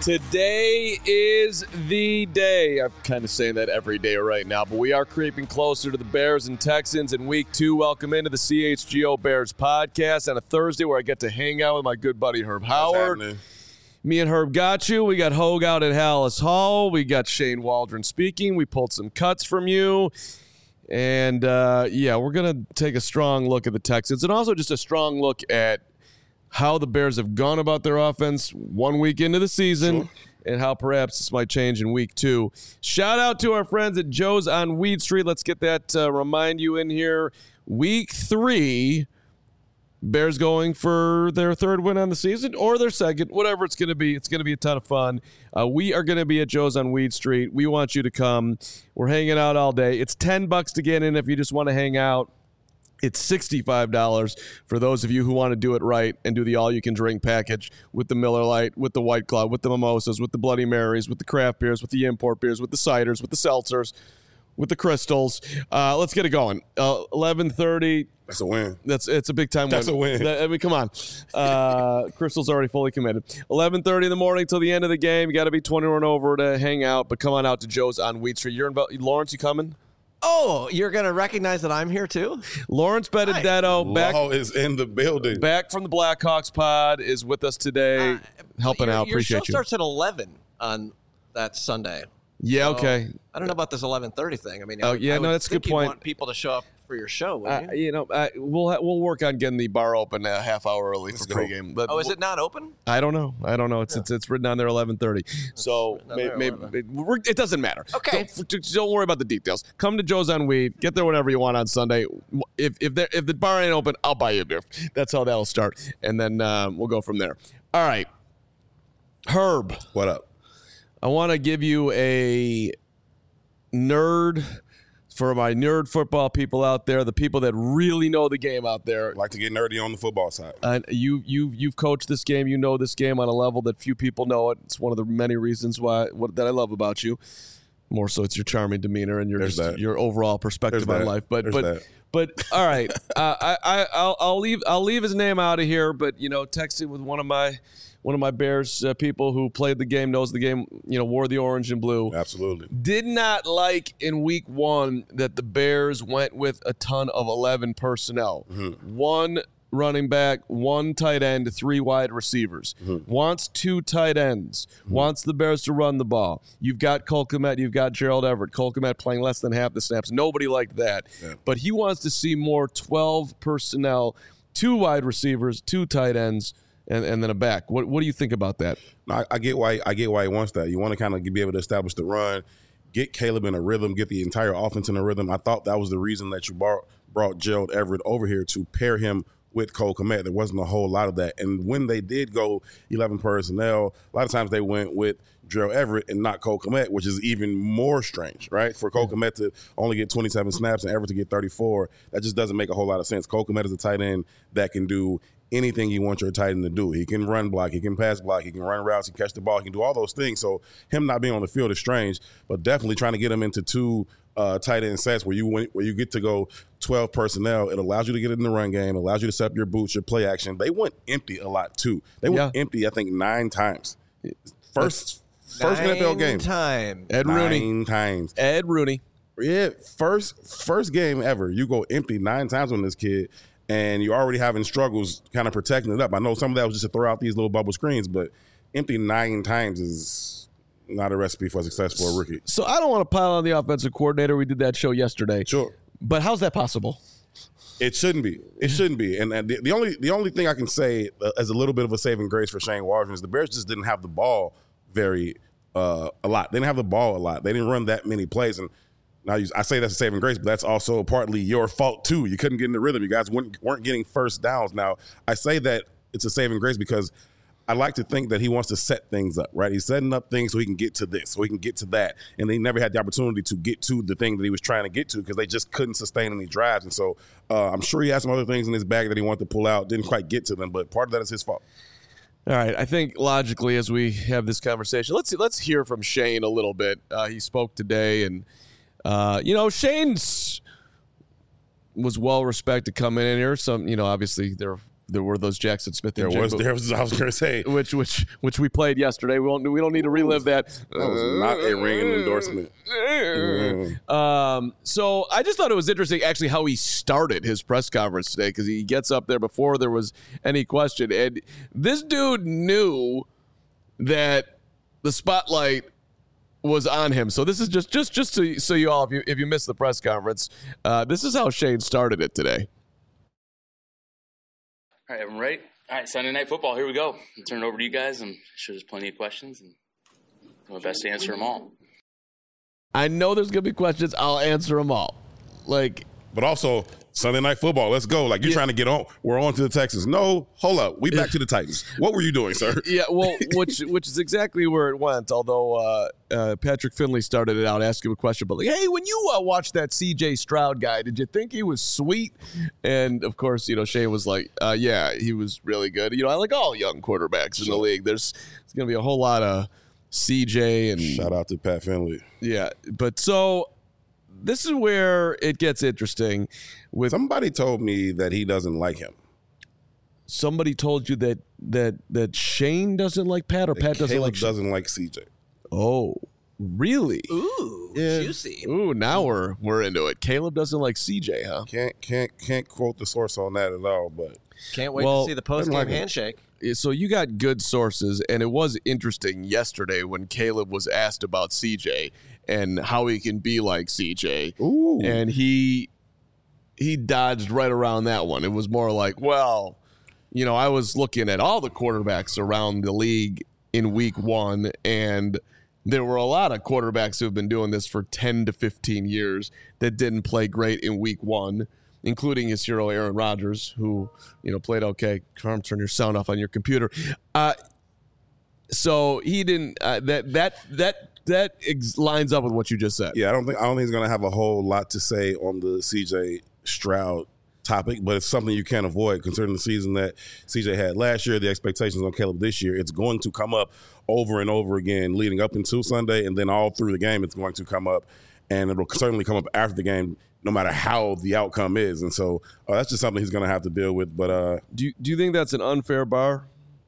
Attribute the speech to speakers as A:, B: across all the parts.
A: Today is the day. I'm kind of saying that every day right now, but we are creeping closer to the Bears and Texans in week 2. Welcome into the CHGO Bears podcast on a Thursday where I get to hang out with my good buddy Herb Howard. Me and Herb got you. We got Hogue out at Hallis Hall. We got Shane Waldron speaking. We pulled some cuts from you. And, we're going to take a strong look at the Texans and also just a strong look at how the Bears have gone about their offense 1 week into the season and how perhaps this might change in week 2. Shout out to our friends at Joe's on Weed Street. Let's get that remind you in here. Week 3, Bears going for their 3rd win on the season or their 2nd, whatever it's going to be. It's going to be a ton of fun. We are going to be at Joe's on Weed Street. We want you to come. We're hanging out all day. It's $10 to get in if you just want to hang out. It's $65 for those of you who want to do it right and do the all-you-can-drink package with the Miller Lite, with the White Claw, with the mimosas, with the Bloody Marys, with the craft beers, with the import beers, with the ciders, with the seltzers, with the crystals. Let's get it going. 11:30.
B: That's a win.
A: It's a big-time win.
B: That's a win.
A: I mean, come on. Crystal's already fully committed. 11:30 in the morning till the end of the game. You got to be 21 and over to hang out, but come on out to Joe's on Wheat Street. Lawrence, you coming?
C: Oh, you're going to recognize that I'm here too?
A: Lawrence Benedetto back
B: is in the building.
A: Back from the Blackhawks pod is with us today, helping out. Appreciate you.
C: Your show starts at 11 on that Sunday.
A: Yeah,
C: so
A: okay.
C: I don't know about this 11:30 thing. I mean,
A: that's a good point.
C: You want people to show up for your show, wouldn't you?
A: We'll work on getting the bar open a half hour early for pregame. But
C: is it not open?
A: I don't know. It's written on there 11:30. So maybe it doesn't matter.
C: Okay.
A: Don't worry about the details. Come to Joe's on Weed. Get there whenever you want on Sunday. If the bar ain't open, I'll buy you a beer. That's how that'll start, and then we'll go from there. All right, Herb.
B: What up?
A: I want to give you a nerd for my nerd football people out there, the people that really know the game out there.
B: Like to get nerdy on the football side.
A: You've coached this game. You know this game on a level that few people know it. It's one of the many reasons that I love about you. More so, it's your charming demeanor and your overall perspective on life. But all right, I'll leave his name out of here. But texting with one of my Bears people who played the game, knows the game, wore the orange and blue.
B: Absolutely.
A: Did not like in week 1 that the Bears went with a ton of 11 personnel. Mm-hmm. 1 running back, 1 tight end, 3 wide receivers. Mm-hmm. Wants 2 tight ends. Mm-hmm. Wants the Bears to run the ball. You've got Cole Kmet. You've got Gerald Everett. Cole Kmet playing less than half the snaps. Nobody liked that. Yeah. But he wants to see more 12 personnel, 2 wide receivers, 2 tight ends, and then a back. What do you think about that?
B: I get why he wants that. You want to kind of be able to establish the run, get Caleb in a rhythm, get the entire offense in a rhythm. I thought that was the reason that you brought Gerald Everett over here to pair him with Cole Kmet. There wasn't a whole lot of that. And when they did go 11 personnel, a lot of times they went with Gerald Everett and not Cole Kmet, which is even more strange, right? For Cole Kmet to only get 27 snaps and Everett to get 34, that just doesn't make a whole lot of sense. Cole Kmet is a tight end that can do anything you want your tight end to do. He can run block, he can pass block, he can run routes, he can catch the ball, he can do all those things. So him not being on the field is strange, but definitely trying to get him into 2 tight end sets where you get to go 12 personnel. It allows you to get it in the run game, allows you to set up your boots, your play action. They went empty a lot too. They went empty, I think, 9 times. First NFL game.
C: 9 times.
A: Ed Rooney.
B: 9 times.
A: Ed Rooney.
B: Yeah, first game ever. You go empty 9 times on this kid. And you're already having struggles kind of protecting it up. I know some of that was just to throw out these little bubble screens, but empty 9 times is not a recipe for success for a rookie.
A: So I don't want to pile on the offensive coordinator. We did that show yesterday.
B: Sure.
A: But how's that possible?
B: It shouldn't be. It shouldn't be. And the only thing I can say as a little bit of a saving grace for Shane Waldron is the Bears just didn't have the ball a lot. They didn't have the ball a lot. They didn't run that many plays. And now I say that's a saving grace, but that's also partly your fault too. You couldn't get in the rhythm. You guys weren't getting first downs. Now, I say that it's a saving grace because I like to think that he wants to set things up, right? He's setting up things so he can get to this, so he can get to that. And they never had the opportunity to get to the thing that he was trying to get to because they just couldn't sustain any drives. And so I'm sure he had some other things in his bag that he wanted to pull out, didn't quite get to them, but part of that is his fault.
A: All right, I think logically as we have this conversation, let's hear from Shane a little bit. He spoke today, and Shane's was well respected coming in here. Some, obviously there are there were those Jackson Smith.
B: There was. I was going to say
A: which we played yesterday. We don't need to relive that.
B: That was not a ringing endorsement.
A: So I just thought it was interesting, actually, how he started his press conference today, because he gets up there before there was any question, and this dude knew that the spotlight was on him. So this is just so you all, if you missed the press conference, this is how Shane started it today.
D: All right, everyone ready? All right, Sunday Night Football, here we go. I'll turn it over to you guys. I'm sure there's plenty of questions, and I'll do my best to answer them all.
A: I know there's going to be questions. I'll answer them all.
B: But also, Sunday Night Football, let's go. Like, you're trying to get on. We're on to the Texans. No, hold up. We back to the Titans. What were you doing, sir?
A: Yeah, well, which is exactly where it went, although Patrick Finley started it out asking a question, but hey, when you watched that C.J. Stroud guy, did you think he was sweet? And, of course, Shane was like, yeah, he was really good. I like all young quarterbacks in the league. There's going to be a whole lot of C.J. and
B: shout out to Pat Finley.
A: Yeah, but so this is where it gets interesting.
B: Somebody told me that he doesn't like him.
A: Somebody told you that Shane doesn't like Pat, or Pat doesn't like Shane?
B: Doesn't like CJ.
A: Oh, really?
C: Ooh, yeah. Juicy.
A: Ooh, now we're into it. Caleb doesn't like CJ, huh?
B: Can't quote the source on that at all, but
C: can't wait to see the post-game handshake.
A: So you got good sources, and it was interesting yesterday when Caleb was asked about CJ and how he can be like CJ.
B: Ooh.
A: And he dodged right around that one. It was more like, well, I was looking at all the quarterbacks around the league in week one, and there were a lot of quarterbacks who have been doing this for 10 to 15 years that didn't play great in week one, including his hero Aaron Rodgers, who played okay. Carm, turn your sound off on your computer. So he didn't. That lines up with what you just said.
B: Yeah, I don't think he's going to have a whole lot to say on the C.J. Stroud topic, but it's something you can't avoid considering the season that C.J. had last year, the expectations on Caleb this year. It's going to come up over and over again leading up into Sunday, and then all through the game it's going to come up, and it will certainly come up after the game no matter how the outcome is. And so that's just something he's going to have to deal with. But
A: do you think that's an unfair bar?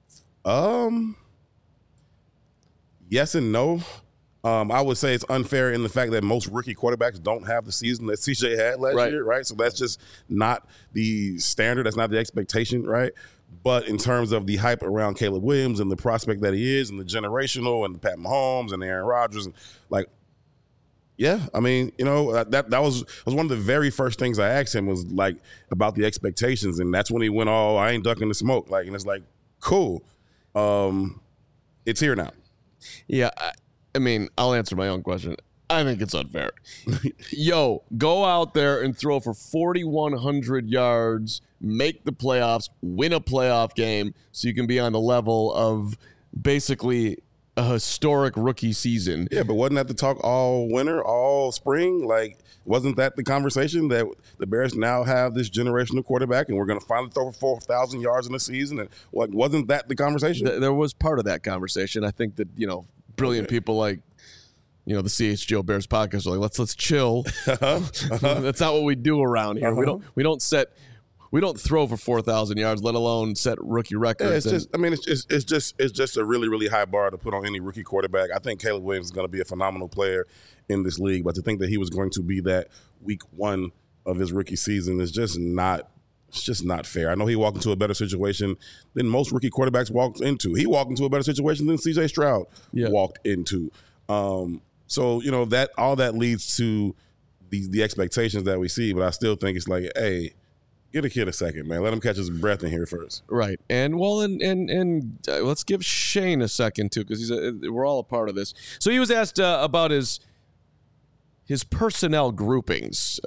B: Yes and no. I would say it's unfair in the fact that most rookie quarterbacks don't have the season that CJ had last year, right? So that's just not the standard. That's not the expectation, right? But in terms of the hype around Caleb Williams and the prospect that he is and the generational and the Pat Mahomes and Aaron Rodgers, and yeah, I mean, that was one of the very first things I asked him was like about the expectations, and that's when he went all, I ain't ducking the smoke, and it's like, cool, it's here now.
A: Yeah, I mean, I'll answer my own question. I think it's unfair. Yo, go out there and throw for 4,100 yards, make the playoffs, win a playoff game, so you can be on the level of basically a historic rookie season.
B: Yeah, but wasn't that the talk all winter, all spring? Wasn't that the conversation that the Bears now have this generational quarterback and we're going to finally throw for 4,000 yards in the season? And wasn't that the conversation?
A: There was part of that conversation. I think that, brilliant people like, the CHGO Bears podcast are like, let's chill. That's not what we do around here. We don't throw for 4,000 yards, let alone set rookie records.
B: It's just a really, really high bar to put on any rookie quarterback. I think Caleb Williams is going to be a phenomenal player in this league, but to think that he was going to be that week one of his rookie season is just not. It's just not fair. I know he walked into a better situation than most rookie quarterbacks walked into. He walked into a better situation than C.J. Stroud walked into. So that all that leads to the expectations that we see. But I still think it's like, hey, give a kid a second, man. Let him catch his breath in here first.
A: Right. And and let's give Shane a second too, because we're all a part of this. So he was asked about his personnel groupings.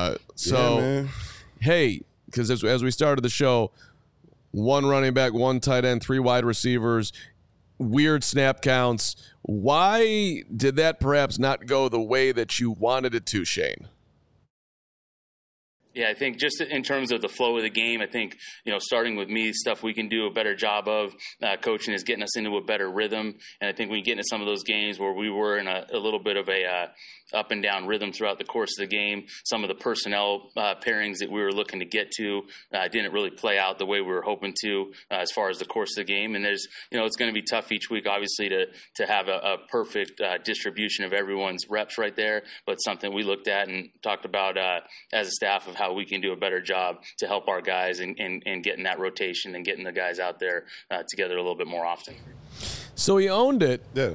A: Hey. Because as we started the show, one running back, one tight end, 3 wide receivers, weird snap counts. Why did that perhaps not go the way that you wanted it to, Shane?
D: Yeah, I think just in terms of the flow of the game, I think, starting with me, stuff we can do a better job of coaching is getting us into a better rhythm. And I think when you get into some of those games where we were in a little bit of a up and down rhythm throughout the course of the game, some of the personnel pairings that we were looking to get to didn't really play out the way we were hoping to as far as the course of the game. And there's, it's going to be tough each week, obviously, to have a perfect distribution of everyone's reps right there. But something we looked at and talked about as a staff of how we can do a better job to help our guys and getting that rotation and getting the guys out there together a little bit more often.
A: So he owned it.
B: Yeah.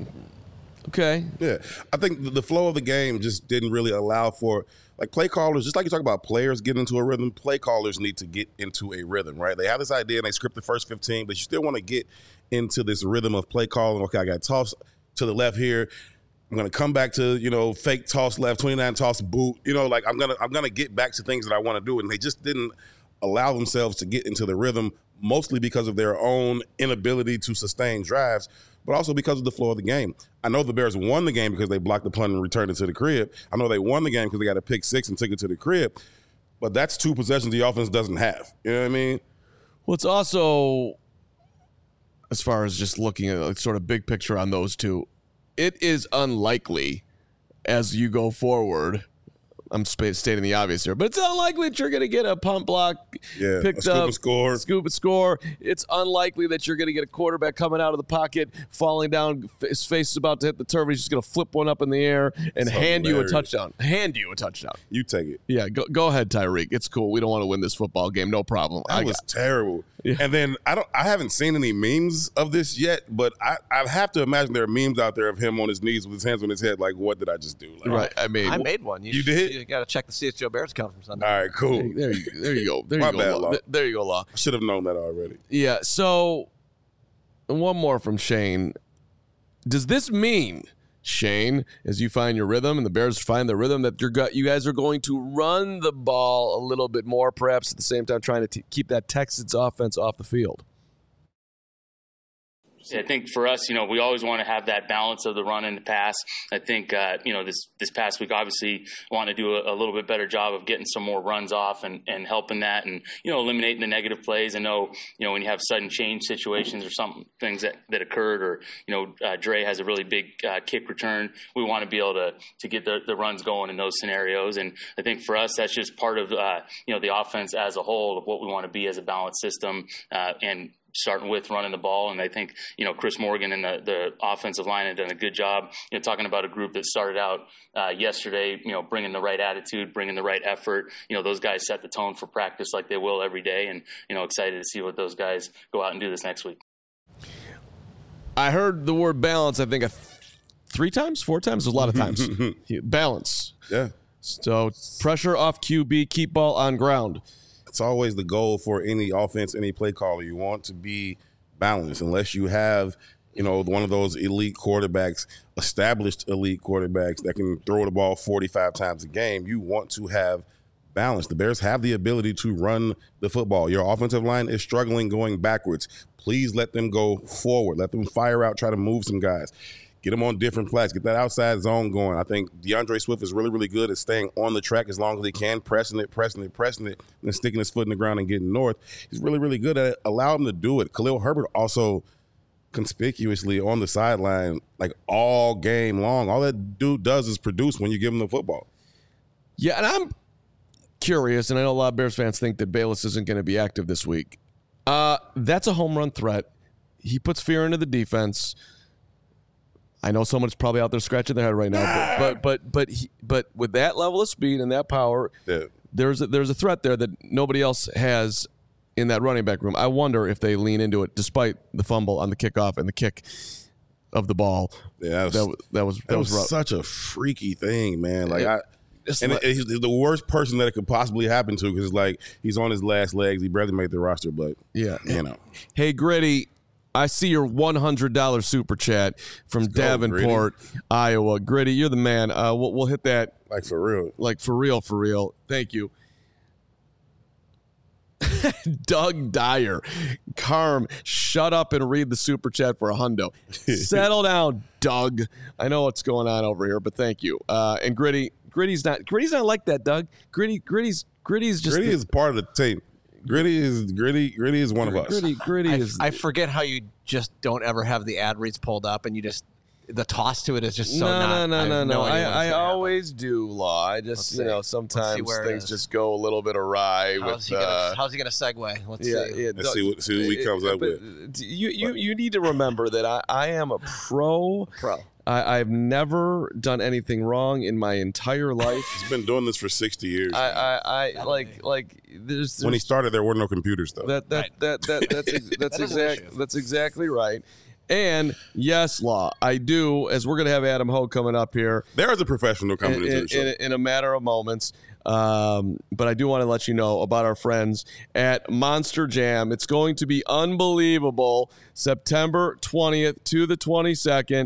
A: Okay.
B: Yeah. I think the flow of the game just didn't really allow for, like, play callers, just like you talk about players getting into a rhythm, play callers need to get into a rhythm, right? They have this idea and they script the first 15, but you still want to get into this rhythm of play calling. Okay, I got tossed to the left here. I'm going to come back to, fake toss left, 29 toss boot. I'm going to get back to things that I want to do. And they just didn't allow themselves to get into the rhythm, mostly because of their own inability to sustain drives, but also because of the flow of the game. I know the Bears won the game because they blocked the punt and returned it to the crib. I know they won the game because they got a pick six and took it to the crib. But that's two possessions the offense doesn't have. You know what I mean?
A: Well, it's also, as far as just looking at sort of big picture on those two, it is unlikely as you go forward. I'm stating the obvious here, but it's unlikely that you're going to get a punt block picked up, scoop and score. It's unlikely that you're going to get a quarterback coming out of the pocket, falling down, his face is about to hit the turf. He's just going to flip one up in the air and hand you a touchdown.
B: You take it.
A: Yeah, go ahead, Tyreek. It's cool. We don't want to win this football game. No problem.
B: That was terrible. Yeah. And then I haven't seen any memes of this yet, but I have to imagine there are memes out there of him on his knees with his hands on his head. Like, what did I just do? Like,
A: right. I
C: made one.
B: You did?
C: You got to check the CHGO Bears conference on that.
B: All right, cool.
A: There you go. There
B: My
A: you
B: bad,
A: go.
B: Law.
A: There you go, Law.
B: I should have known that already.
A: Yeah. So, one more from Shane. Does this mean, Shane, as you find your rhythm and the Bears find their rhythm, that you guys are going to run the ball a little bit more, perhaps at the same time trying to keep that Texans offense off the field?
D: I think for us, we always want to have that balance of the run and the pass. I think, this past week, obviously, want to do a little bit better job of getting some more runs off and helping that and, eliminating the negative plays. I know, when you have sudden change situations or some things that occurred or, Dre has a really big kick return, we want to be able to get the runs going in those scenarios. And I think for us, that's just part of, the offense as a whole of what we want to be as a balanced system and starting with running the ball. And I think, Chris Morgan and the offensive line have done a good job, talking about a group that started out yesterday, bringing the right attitude, bringing the right effort. Those guys set the tone for practice like they will every day. And, excited to see what those guys go out and do this next week.
A: I heard the word balance, I think 4 times? There's a lot of times. Balance.
B: Yeah.
A: So pressure off QB, keep ball on ground.
B: It's always the goal for any offense, any play caller. You want to be balanced unless you have, one of those elite quarterbacks, established elite quarterbacks that can throw the ball 45 times a game. You want to have balance. The Bears have the ability to run the football. Your offensive line is struggling going backwards. Please let them go forward. Let them fire out, try to move some guys. Get them on different flats. Get that outside zone going. I think DeAndre Swift is really, really good at staying on the track as long as he can, pressing it, and then sticking his foot in the ground and getting north. He's really, really good at it. Allow him to do it. Khalil Herbert also conspicuously on the sideline, like all game long. All that dude does is produce when you give him the football.
A: Yeah, and I'm curious, and I know a lot of Bears fans think that Bayless isn't going to be active this week. That's a home run threat. He puts fear into the defense. I know someone's probably out there scratching their head right now, but with that level of speed and that power, there's a threat there that nobody else has in that running back room. I wonder if they lean into it, despite the fumble on the kickoff and the kick of the ball.
B: Yeah,
A: that was rough.
B: Such a freaky thing, man. He's the worst person that it could possibly happen to because he's on his last legs. He barely made the roster, but
A: yeah, Hey, Gritty. I see your $100 super chat from Davenport, Iowa. Gritty, you're the man. We'll hit that.
B: Like for real.
A: Like for real. Thank you. Doug Dyer. Carm, shut up and read the super chat for a hundo. Settle down, Doug. I know what's going on over here, but thank you. And Gritty, Gritty's not like that, Doug. Gritty's just
B: Gritty is part of the team. Gritty is one of us.
A: Gritty is.
C: I forget how you just don't ever have the ad reads pulled up, and you just the toss to it is just so
A: no. I always do, Law. I just sometimes things just go a little bit awry.
C: How's he gonna segue? Let's see.
B: Let's see what he comes up with.
A: You need to remember that I am a pro. I've never done anything wrong in my entire life.
B: He's been doing this for 60 years.
A: There's
B: when he started, there were no computers though.
A: That's exactly right. And yes, Law, I do, as we're going to have Adam Hogue coming up here.
B: There is a professional coming into the show.
A: In a matter of moments. But I do want to let you know about our friends at Monster Jam. It's going to be unbelievable. September 20th to the 22nd.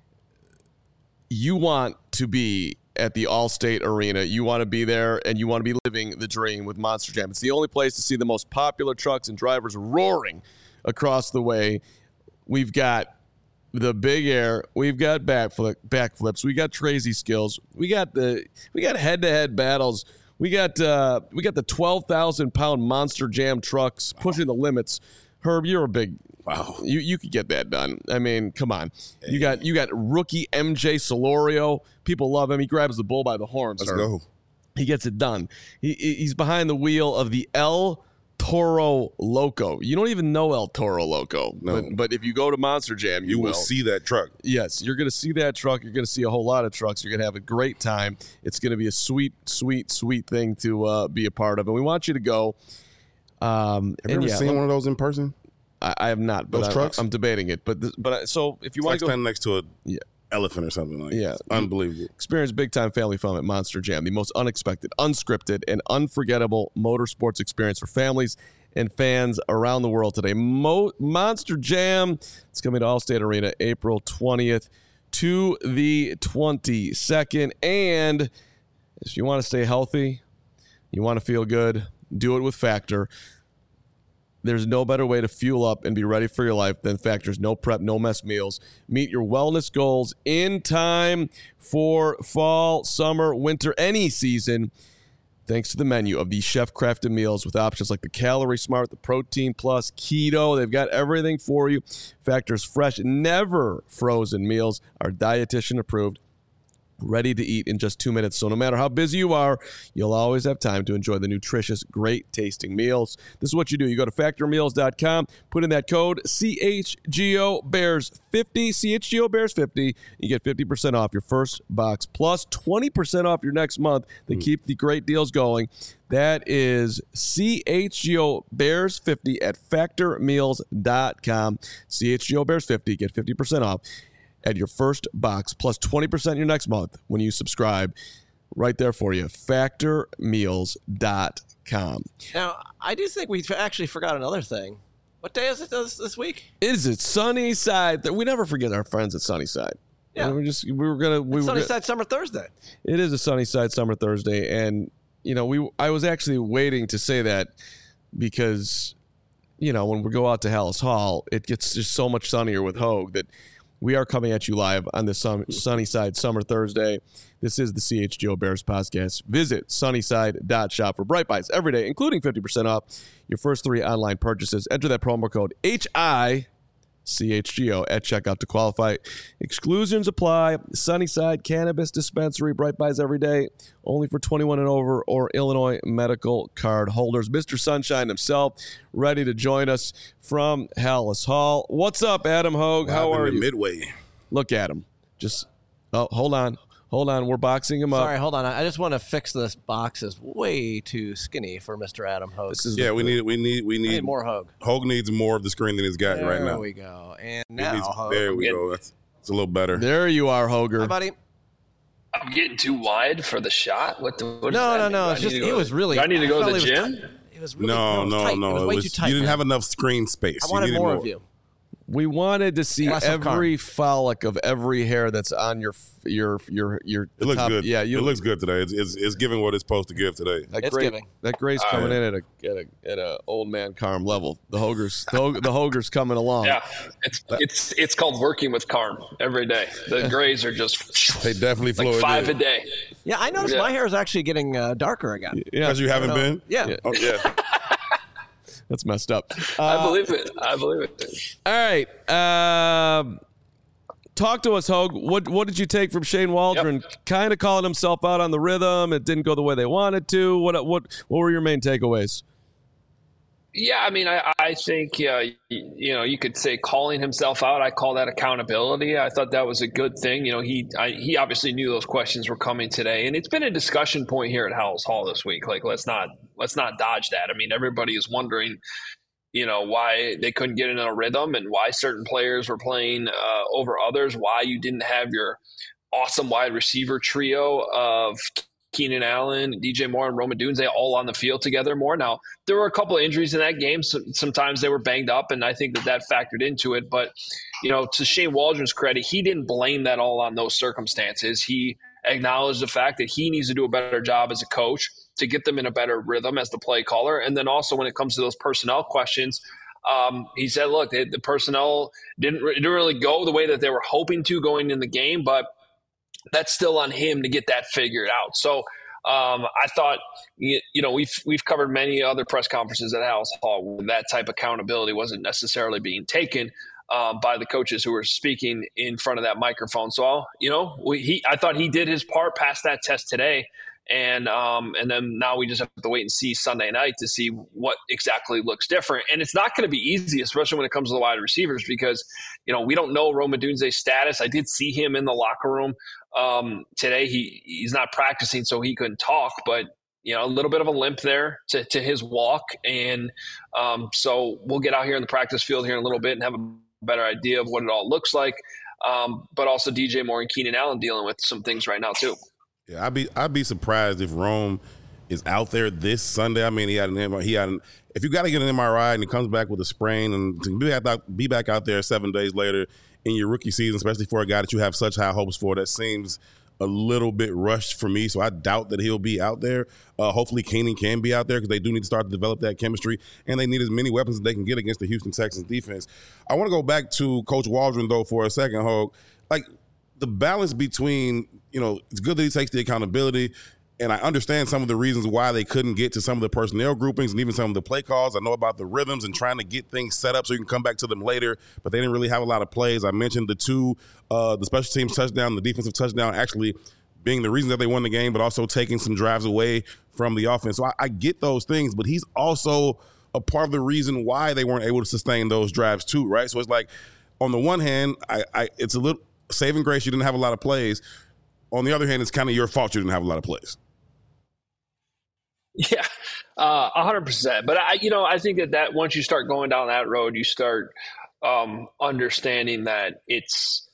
A: You want to be at the Allstate Arena. You want to be there, and you want to be living the dream with Monster Jam. It's the only place to see the most popular trucks and drivers roaring across the way. We've got the Big Air. We've got backflips. We got crazy skills. We got head-to-head battles. We got the 12,000-pound Monster Jam trucks pushing the limits. Herb, you're a big.
B: Wow.
A: You could get that done. I mean, come on. You got rookie MJ Solorio. People love him. He grabs the bull by the horns.
B: Let's go.
A: He gets it done. He's behind the wheel of the El Toro Loco. You don't even know El Toro Loco.
B: No.
A: But if you go to Monster Jam, you
B: will see that truck.
A: Yes, you're going to see that truck. You're going to see a whole lot of trucks. You're going to have a great time. It's going to be a sweet, sweet, sweet thing to be a part of. And we want you to go.
B: Have you ever seen one of those in person?
A: I have not, but
B: trucks?
A: I'm debating it. So if you want to go
B: standing next to an elephant or something like that. It's unbelievable.
A: Experience big time family fun at Monster Jam, the most unexpected, unscripted, and unforgettable motorsports experience for families and fans around the world today. Monster Jam, it's coming to Allstate Arena April 20th to the 22nd. And if you want to stay healthy, you want to feel good, do it with Factor. There's no better way to fuel up and be ready for your life than Factor's no prep, no mess meals. Meet your wellness goals in time for fall, summer, winter, any season. Thanks to the menu of these chef-crafted meals with options like the Calorie Smart, the Protein Plus, Keto. They've got everything for you. Factor's fresh, never frozen meals are dietitian approved, ready to eat in just 2 minutes. So no matter how busy you are, you'll always have time to enjoy the nutritious, great-tasting meals. This is what you do. You go to factormeals.com, put in that code CHGOBEARS50, CHGOBEARS50. You get 50% off your first box, plus 20% off your next month. They keep the great deals going. That is CHGOBEARS50 at factormeals.com. CHGOBEARS50. Get 50% off at your first box, plus 20% your next month when you subscribe. Right there for you, factormeals.com.
C: Now, I do think we actually forgot another thing. What day is it this week?
A: Is it Sunnyside? We never forget our friends at Sunnyside.
C: Yeah. Sunnyside Summer Thursday.
A: It is a Sunnyside Summer Thursday. And, I was actually waiting to say that because, when we go out to Hallis Hall, it gets just so much sunnier with Hogue that we are coming at you live on this Sunnyside Summer Thursday. This is the CHGO Bears podcast. Visit sunnyside.shop for Bright Buys every day, including 50% off your first 3 online purchases. Enter that promo code HICHGO at checkout to qualify. Exclusions apply. Sunnyside Cannabis Dispensary, Bright Buys every day, only for 21 and over or Illinois medical card holders. Mr. Sunshine himself, ready to join us from Hallis Hall. What's up, Adam Hogue? How are you?
B: Midway.
A: Look at him. Hold on. We're boxing him up.
C: Sorry, hold on. I just want to fix this box. Is way too skinny for Mr. Adam Hogue.
B: We need
C: more Hogue.
B: Hogue needs more of the screen than he's got right now.
C: There we go. And now Hogue.
B: There we go. It's a little better.
A: There you are, Hoger.
C: Hi, buddy.
E: I'm getting too wide for the shot. What
C: no. It's just it was really.
E: Do I need to go to the gym?
C: It was really
B: no.
C: It was way too tight.
B: You didn't have enough screen space.
C: I wanted more of you.
A: We wanted to see
C: Less of
A: every follic of every hair that's on your.
B: It looks
A: top.
B: good.
A: Yeah,
B: it looks good today. It's giving what it's supposed to give today.
A: That gray's coming in at a old man Carm level. The Hoger's coming along.
E: Yeah, it's called working with Carm every day. The grays are just
B: They definitely flow
E: like 5 a day.
C: Yeah, I noticed my hair is actually getting darker again.
A: Yeah,
B: Because you haven't been.
C: Yeah.
B: Oh yeah.
A: that's messed up.
E: I believe it.
A: All right. Talk to us, Hogue. What did you take from Shane Waldron? Kind of calling himself out on the rhythm. It didn't go the way they wanted to. What were your main takeaways?
E: Yeah, I mean, I think, you could say calling himself out. I call that accountability. I thought that was a good thing. He obviously knew those questions were coming today, and it's been a discussion point here at Howells Hall this week. Like, let's not dodge that. I mean, everybody is wondering, why they couldn't get in a rhythm and why certain players were playing over others, why you didn't have your awesome wide receiver trio of Keenan Allen, DJ Moore, and Rome Odunze all on the field together more. Now, there were a couple of injuries in that game. So sometimes they were banged up, and I think that factored into it. But, to Shane Waldron's credit, he didn't blame that all on those circumstances. He acknowledged the fact that he needs to do a better job as a coach to get them in a better rhythm as the play caller. And then also when it comes to those personnel questions, he said, look, the personnel didn't really go the way that they were hoping to going in the game, but that's still on him to get that figured out. So I thought, we've covered many other press conferences at Howells Hall where that type of accountability wasn't necessarily being taken by the coaches who were speaking in front of that microphone. So, I thought he did his part, passed that test today. And then now we just have to wait and see Sunday night to see what exactly looks different. And it's not going to be easy, especially when it comes to the wide receivers, because, we don't know Rome Odunze's status. I did see him in the locker room today. He's not practicing, so he couldn't talk, but a little bit of a limp there to his walk. And so we'll get out here in the practice field here in a little bit and have a better idea of what it all looks like. But also DJ Moore and Keenan Allen dealing with some things right now too.
B: Yeah, I'd be surprised if Rome is out there this Sunday. I mean, if you got to get an MRI and he comes back with a sprain and to be back out there 7 days later in your rookie season, especially for a guy that you have such high hopes for, that seems a little bit rushed for me. So I doubt that he'll be out there. Hopefully Keenan can be out there because they do need to start to develop that chemistry, and they need as many weapons as they can get against the Houston Texans defense. I want to go back to Coach Waldron, though, for a second, Hogue. Like, the balance between, it's good that he takes the accountability, and I understand some of the reasons why they couldn't get to some of the personnel groupings and even some of the play calls. I know about the rhythms and trying to get things set up so you can come back to them later, but they didn't really have a lot of plays. I mentioned the special teams touchdown, the defensive touchdown actually being the reason that they won the game, but also taking some drives away from the offense. So I get those things, but he's also a part of the reason why they weren't able to sustain those drives too, right? So it's like, on the one hand, it's a little saving grace, you didn't have a lot of plays. On the other hand, it's kind of your fault you didn't have a lot of plays.
E: Yeah, 100%. But I think that once you start going down that road, you start understanding that it's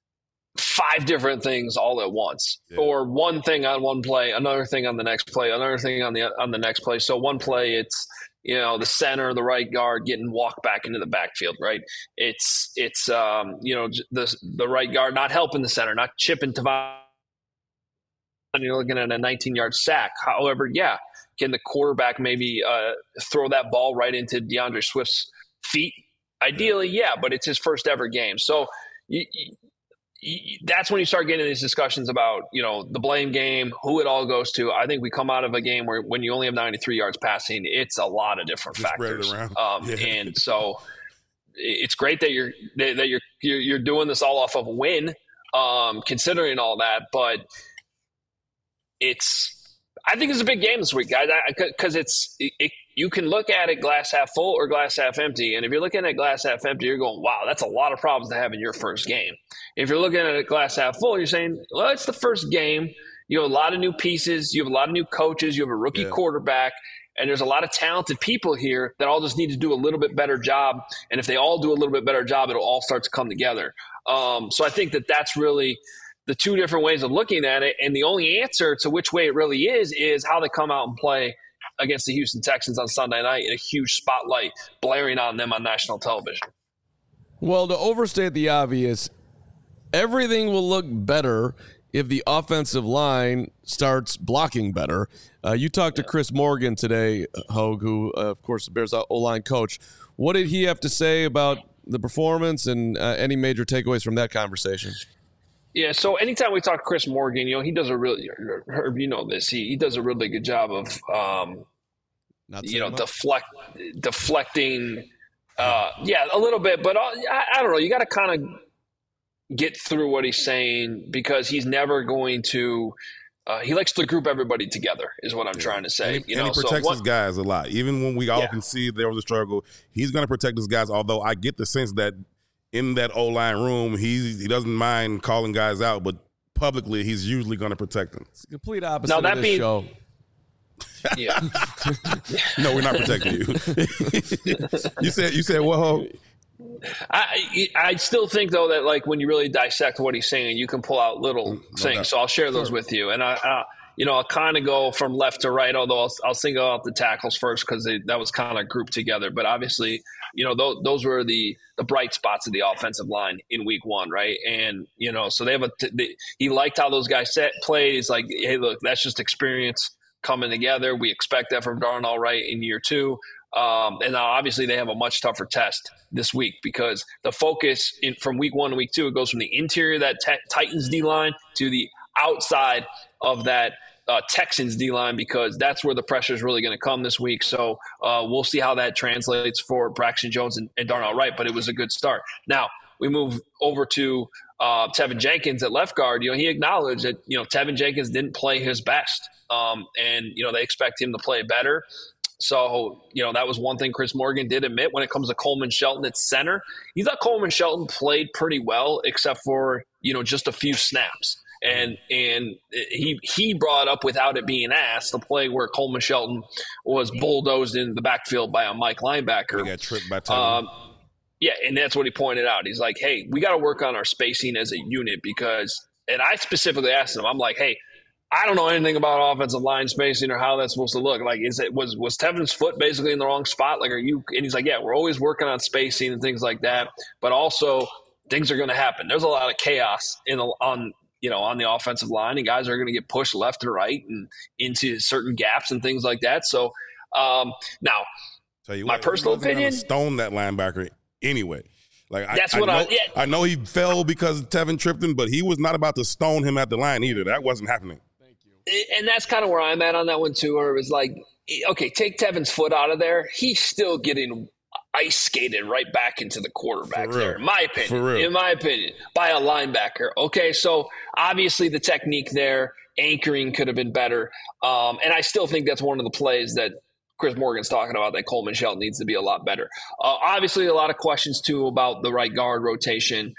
E: 5 different things all at once, or one thing on one play, another thing on the next play, another thing on the next play. So one play, it's the center, the right guard getting walked back into the backfield, right? It's the right guard not helping the center, not chipping Tavon. And you're looking at a 19-yard sack. However, can the quarterback maybe throw that ball right into DeAndre Swift's feet? Ideally, but it's his first ever game. So that's when you start getting these discussions about, the blame game, who it all goes to. I think we come out of a game where when you only have 93 yards passing, it's a lot of different factors. And so it's great that you're doing this all off of a win, considering all that, but I think it's a big game this week, guys, because you can look at it glass half full or glass half empty. And if you're looking at glass half empty, you're going, wow, that's a lot of problems to have in your first game. If you're looking at it glass half full, you're saying, well, it's the first game. You have a lot of new pieces. You have a lot of new coaches. You have a rookie quarterback. And there's a lot of talented people here that all just need to do a little bit better job. And if they all do a little bit better job, it'll all start to come together. So I think that's really – the 2 different ways of looking at it, and the only answer to which way it really is how they come out and play against the Houston Texans on Sunday night in a huge spotlight blaring on them on national television.
A: Well, to overstate the obvious, everything will look better if the offensive line starts blocking better. You talked to Chris Morgan today, Hogue, who, of course, the Bears O-line coach. What did he have to say about the performance and any major takeaways from that conversation?
E: Yeah, so anytime we talk to Chris Morgan, he does a really, Herb, you know this, he does a really good job of, deflecting, a little bit, but I don't know. You got to kind of get through what he's saying because he's never going to. He likes to group everybody together, is what I'm trying to say.
B: And he protects his guys a lot. Even when we all can see there was a struggle, he's going to protect his guys. Although I get the sense that in that O-line room, he doesn't mind calling guys out, but publicly he's usually going to protect them.
A: It's the complete opposite of this show.
E: Yeah.
B: No, we're not protecting you. You said what, Hogue?
E: I still think, though, that like when you really dissect what he's saying, you can pull out little things. So I'll share those with you. And I'll kind of go from left to right, although I'll single out the tackles first because that was kind of grouped together. But obviously, those were the bright spots of the offensive line in week one, right? And, so they have he liked how those guys played. He's like, hey, look, that's just experience coming together. We expect that from Darnell Wright in year two. And now obviously they have a much tougher test this week because the focus from week one to week two, it goes from the interior of that Titans D-line to the outside of that Texans D-line because that's where the pressure is really going to come this week. So we'll see how that translates for Braxton Jones and Darnell Wright, but it was a good start. Now we move over to Tevin Jenkins at left guard. He acknowledged that, Tevin Jenkins didn't play his best. And they expect him to play better. So, that was one thing Chris Morgan did admit when it comes to Coleman Shelton at center. He thought Coleman Shelton played pretty well, except for, just a few snaps. And he brought up, without it being asked, the play where Coleman Shelton was bulldozed in the backfield by a Mike linebacker.
B: He got tripped by Tevin.
E: Yeah, and that's what he pointed out. He's like, hey, we got to work on our spacing as a unit because – and I specifically asked him, I'm like, hey, I don't know anything about offensive line spacing or how that's supposed to look. Like, was Tevin's foot basically in the wrong spot? Like, and he's like, yeah, we're always working on spacing and things like that. But also, things are going to happen. There's a lot of chaos on the offensive line, and guys are going to get pushed left and right and into certain gaps and things like that. So now, my personal opinion,
B: stone that linebacker anyway. Like
E: that's
B: I know he fell because Tevin tripped him, but he was not about to stone him at the line either. That wasn't happening.
E: And that's kind of where I'm at on that one too, where it was like, okay, take Tevin's foot out of there. He's still getting ice skated right back into the quarterback there, in my opinion, by a linebacker. Okay, so obviously the technique there, anchoring could have been better. And I still think that's one of the plays that Chris Morgan's talking about that Coleman Shelton needs to be a lot better. Obviously, a lot of questions too about the right guard rotation.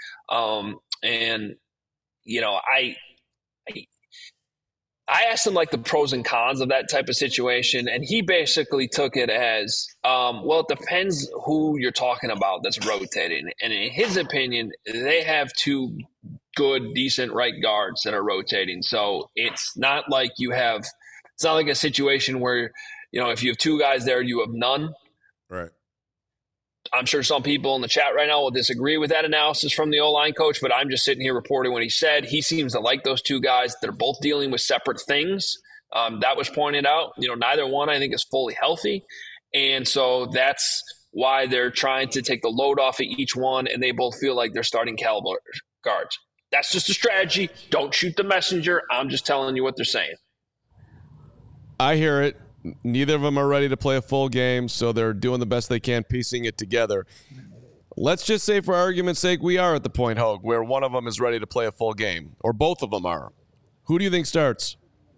E: I asked him like the pros and cons of that type of situation, and he basically took it as, it depends who you're talking about that's rotating. And in his opinion, they have two good, decent right guards that are rotating. So it's not like it's not like a situation where, if you have two guys there, you have none.
B: Right.
E: I'm sure some people in the chat right now will disagree with that analysis from the O-line coach, but I'm just sitting here reporting what he said. He seems to like those two guys. They're both dealing with separate things. That was pointed out. Neither one, I think, is fully healthy. And so that's why they're trying to take the load off of each one, and they both feel like they're starting caliber guards. That's just a strategy. Don't shoot the messenger. I'm just telling you what they're saying.
A: I hear it. Neither of them are ready to play a full game, so they're doing the best they can, piecing it together. Let's just say, for argument's sake, we are at the point, Hogue, where one of them is ready to play a full game, or both of them are. Who do you think starts?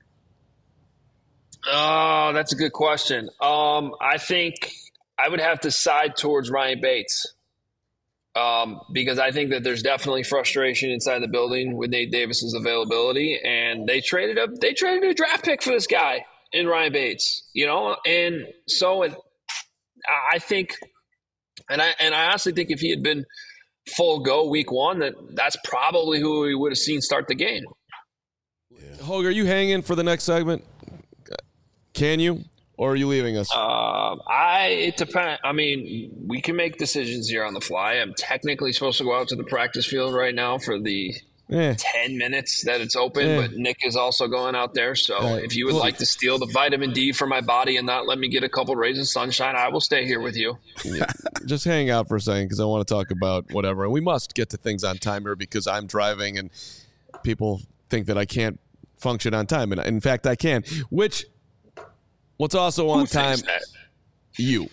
E: Oh, that's a good question. I think I would have to side towards Ryan Bates because I think that there's definitely frustration inside the building with Nate Davis's availability, and they traded a draft pick for this guy in Ryan Bates, and so I think, and I honestly think if he had been full go week one, that's probably who we would have seen start the game.
A: Yeah. Hogue, are you hanging for the next segment? Can you? or are you leaving us?
E: It depends. I mean, we can make decisions here on the fly. I'm technically supposed to go out to the practice field right now for the 10 minutes that it's open, but Nick is also going out there. So if you would like to steal the vitamin D from my body and not let me get a couple rays of sunshine, I will stay here with you.
A: Just hang out for a second because I want to talk about whatever. And we must get to things on time here because I'm driving and people think that I can't function on time. And in fact, I can. What's also on time? You.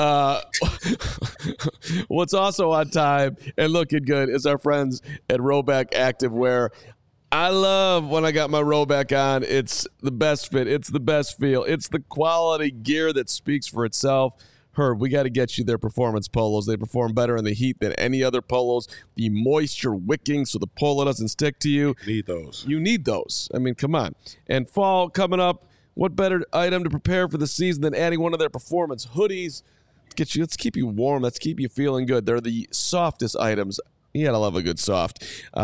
A: What's also on time and looking good is our friends at Rhoback Activewear. I love when I got my Rhoback on. It's the best fit. It's the best feel. It's the quality gear that speaks for itself. Herb, we got to get you their performance polos. They perform better in the heat than any other polos. The moisture wicking so the polo doesn't stick to you.
B: Need those.
A: You need those. I mean, come on. And fall coming up. What better item to prepare for the season than adding one of their performance hoodies? Let's keep you warm. Let's keep you feeling good. They're the softest items. You gotta love a good soft.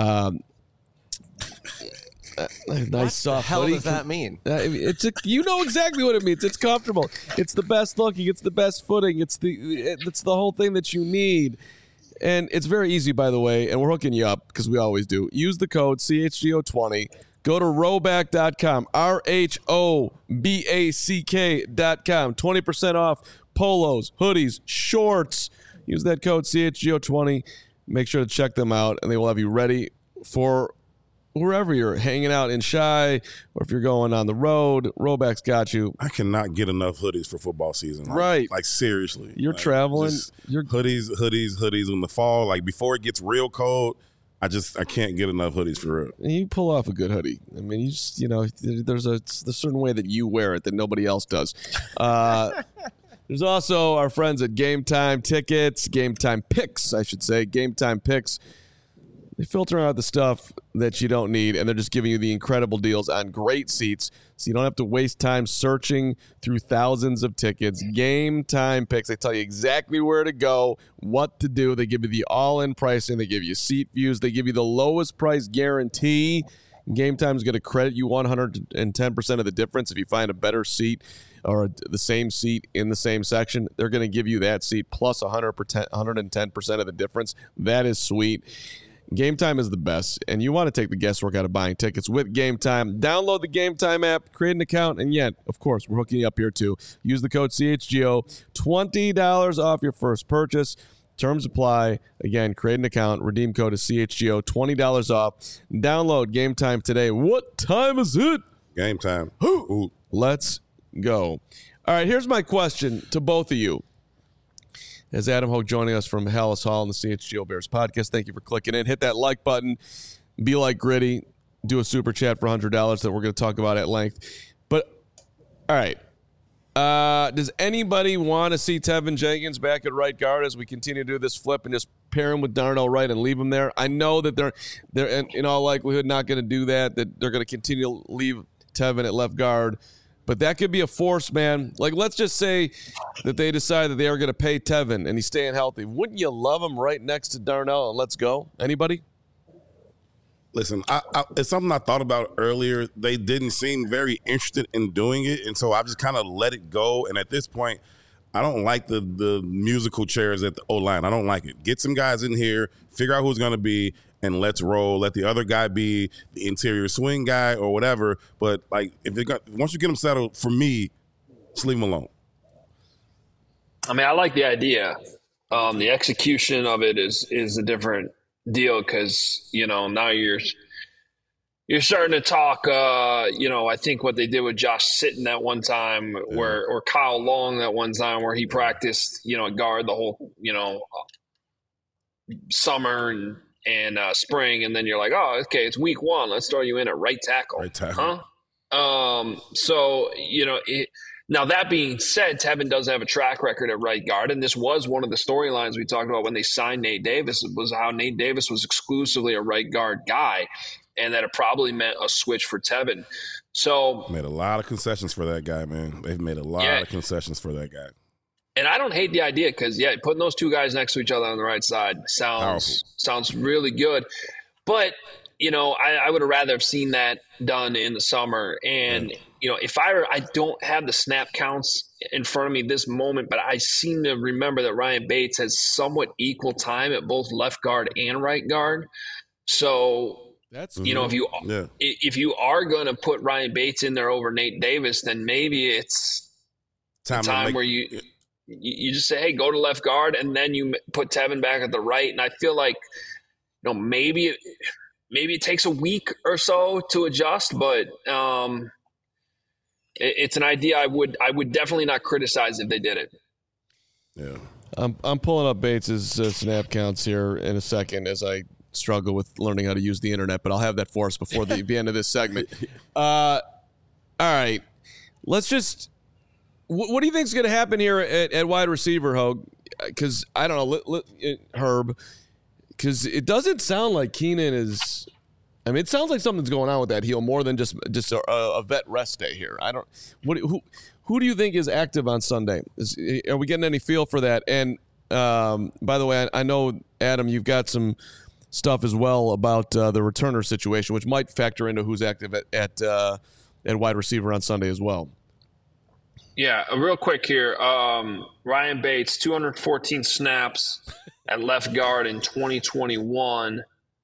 A: Nice soft.
C: What the hell
A: hoodie.
C: does that mean?
A: You know exactly what it means. It's comfortable. It's the best looking. It's the best footing. It's the whole thing that you need. And it's very easy, by the way. And we're hooking you up because we always do. Use the code CHGO20. Go to Rhoback.com, RHOBACK.com. 20% off polos, hoodies, shorts. Use that code CHGO20. Make sure to check them out, and they will have you ready for wherever you're hanging out in Chi or if you're going on the road. Rhoback's got you.
B: I cannot get enough hoodies for football season.
A: Right.
B: Like seriously.
A: You're traveling.
B: You're hoodies in the fall. Like before it gets real cold, I can't get enough hoodies for real.
A: You pull off a good hoodie. I mean, there's a certain way that you wear it that nobody else does. There's also our friends at Game Time Tickets, Game Time Picks, I should say. Game Time Picks. They filter out the stuff that you don't need, and they're just giving you the incredible deals on great seats, so you don't have to waste time searching through thousands of tickets. Game Time Picks. They tell you exactly where to go, what to do. They give you the all-in pricing. They give you seat views. They give you the lowest price guarantee. Game Time is going to credit you 110% of the difference if you find a better seat or the same seat in the same section. They're going to give you that seat plus 110% of the difference. That is sweet. Game Time is the best, and you want to take the guesswork out of buying tickets with Game Time. Download the Game Time app, create an account, and yet, of course, we're hooking you up here too. Use the code CHGO, $20 off your first purchase. Terms apply. Again, create an account, redeem code is CHGO, $20 off. Download Game Time today. What time is it?
B: Game time.
A: Ooh. Let's go. All right, here's my question to both of you. As Adam Hogue joining us from Hallis Hall on the CHGO Bears podcast. Thank you for clicking in. Hit that like button. Be like Gritty. Do a super chat for $100 that we're going to talk about at length. But, all right. Does anybody want to see Tevin Jenkins back at right guard as we continue to do this flip and just pair him with Darnell Wright and leave him there? I know that they're in all likelihood not going to do that they're going to continue to leave Tevin at left guard. But that could be a force, man. Like, let's just say that they decide that they are going to pay Tevin and he's staying healthy. Wouldn't you love him right next to Darnell and let's go? Anybody?
B: Listen, it's something I thought about earlier. They didn't seem very interested in doing it, and so I just kind of let it go. And at this point, I don't like the musical chairs at the O-line. I don't like it. Get some guys in here, figure out who's going to be, and let's roll. Let the other guy be the interior swing guy or whatever. But like, once you get them settled, for me, just leave them alone.
E: I mean, I like the idea. The execution of it is a different deal because now you're starting to talk. I think what they did with Josh Sitton that one time, or Kyle Long that one time, where he practiced guard the whole summer and spring, and then you're like, oh, okay, it's week one. Let's throw you in at right tackle.
B: Right tackle.
E: Huh? Now, that being said, Tevin does have a track record at right guard, and this was one of the storylines we talked about when they signed Nate Davis, was how Nate Davis was exclusively a right guard guy, and that it probably meant a switch for Tevin. So
B: made a lot of concessions for that guy, man. They've made a lot of concessions for that guy.
E: And I don't hate the idea because, putting those two guys next to each other on the right side sounds really good. But, I would have rather have seen that done in the summer. And, if I don't have the snap counts in front of me this moment, but I seem to remember that Ryan Bates has somewhat equal time at both left guard and right guard. So
A: that's
E: if you are going to put Ryan Bates in there over Nate Davis, then maybe it's time where you just say, hey, go to left guard, and then you put Tevin back at the right. And I feel like maybe it takes a week or so to adjust, but it's an idea I would definitely not criticize if they did it.
B: Yeah,
A: I'm pulling up Bates's snap counts here in a second as I struggle with learning how to use the internet, but I'll have that for us before the end of this segment. All right, let's just. What do you think is going to happen here at wide receiver, Hogue? Because I don't know, Herb. Because it doesn't sound like Keenan is. I mean, it sounds like something's going on with that heel more than just a vet rest day here. I don't. Who do you think is active on Sunday? Are we getting any feel for that? And by the way, I know, Adam, you've got some stuff as well about the returner situation, which might factor into who's active at wide receiver on Sunday as well.
E: Yeah, real quick here. Ryan Bates, 214 snaps at left guard in 2021.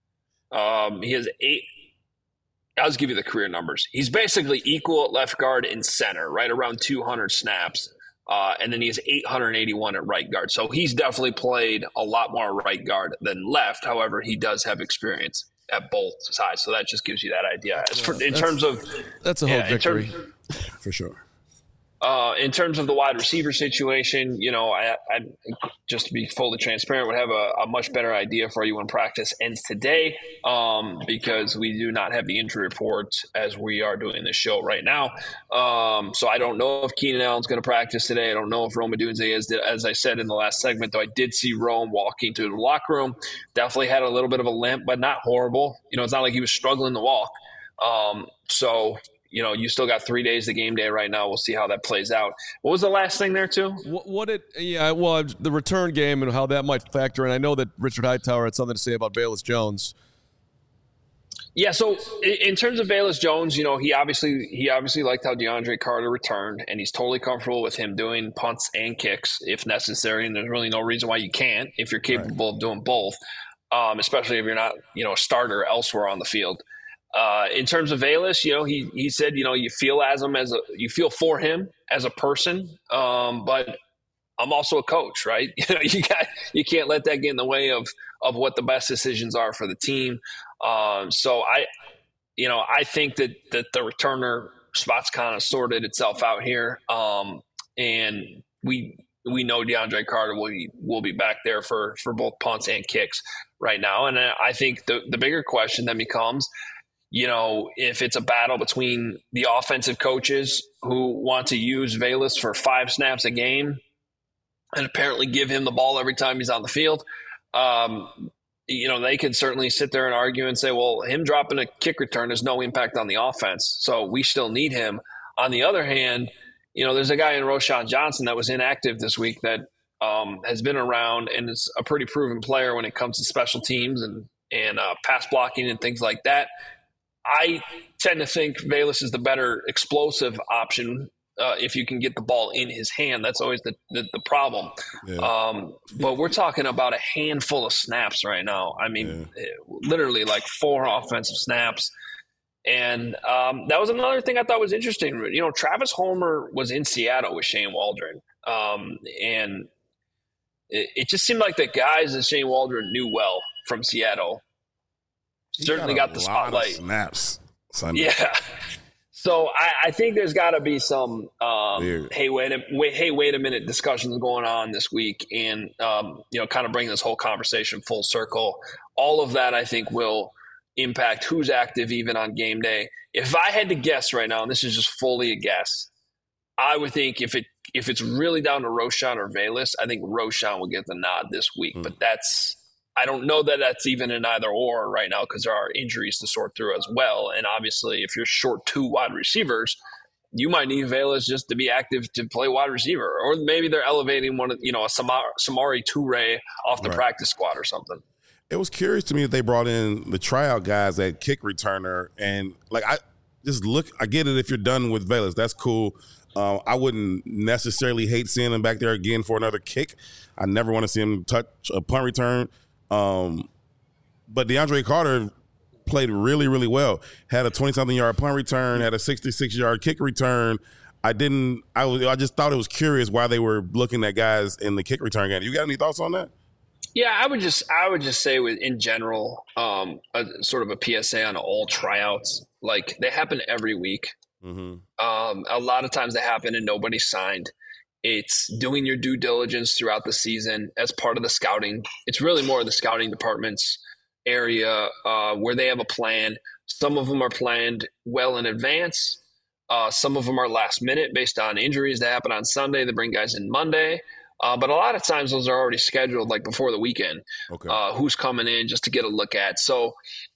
E: He has 8. I'll just give you the career numbers. He's basically equal at left guard and center, right around 200 snaps. And then he has 881 at right guard. So he's definitely played a lot more right guard than left. However, he does have experience at both sides. So that just gives you that idea.
A: That's a whole victory.
B: For sure.
E: In terms of the wide receiver situation, I just to be fully transparent, would have a much better idea for you when practice ends today, because we do not have the injury report as we are doing this show right now. So I don't know if Keenan Allen's going to practice today. I don't know if Rome Odunze is. As I said in the last segment, though, I did see Rome walking to the locker room. Definitely had a little bit of a limp, but not horrible. It's not like he was struggling to walk. You still got 3 days to game day right now. We'll see how that plays out. What was the last thing there, too?
A: The return game and how that might factor in. I know that Richard Hightower had something to say about Velus Jones.
E: Yeah, so in terms of Velus Jones, he obviously liked how DeAndre Carter returned, and he's totally comfortable with him doing punts and kicks if necessary, and there's really no reason why you can't if you're capable of doing both, especially if you're not, a starter elsewhere on the field. In terms of Velus, he said, you feel for him as a person, but I'm also a coach, right? You can't let that get in the way of what the best decisions are for the team. So I think that the returner spot's kind of sorted itself out here, and we know DeAndre Carter will be back there for both punts and kicks right now, and I think the bigger question then becomes, if it's a battle between the offensive coaches who want to use Velus for 5 snaps a game and apparently give him the ball every time he's on the field, they can certainly sit there and argue and say, well, him dropping a kick return has no impact on the offense, so we still need him. On the other hand, there's a guy in Roschon Johnson that was inactive this week that has been around and is a pretty proven player when it comes to special teams and pass blocking and things like that. I tend to think Velus is the better explosive option if you can get the ball in his hand. That's always the problem. Yeah. But we're talking about a handful of snaps right now. I mean, literally like 4 offensive snaps. And that was another thing I thought was interesting. Travis Homer was in Seattle with Shane Waldron. And it just seemed like the guys that Shane Waldron knew well from Seattle certainly got the spotlight.
B: Snaps Sunday.
E: Yeah. So I think there's got to be some hey wait a minute discussions going on this week, and kind of bring this whole conversation full circle. All of that I think will impact who's active even on game day. If I had to guess right now, and this is just fully a guess, I would think if it's really down to Roschon or Velus, I think Roschon will get the nod this week. But I don't know that that's even an either or right now because there are injuries to sort through as well. And obviously, if you're short 2 wide receivers, you might need Velus just to be active to play wide receiver. Or maybe they're elevating one of, a Samori Toure off the practice squad or something.
B: It was curious to me that they brought in the tryout guys at kick returner. And, just look. I get it if you're done with Velus. That's cool. I wouldn't necessarily hate seeing him back there again for another kick. I never want to see him touch a punt return. But DeAndre Carter played really, really well. Had a 20-something yard punt return, had a 66-yard kick return. I just thought it was curious why they were looking at guys in the kick return game. You got any thoughts on that?
E: Yeah, I would just say in general, sort of a PSA on all tryouts. Like, they happen every week. Mm-hmm. A lot of times they happen and nobody's signed. It's doing your due diligence throughout the season as part of the scouting. It's really more of the scouting department's area where they have a plan. Some of them are planned well in advance. Some of them are last minute based on injuries that happen on Sunday. They bring guys in Monday. But a lot of times those are already scheduled like before the weekend. Okay. Who's coming in just to get a look at. So,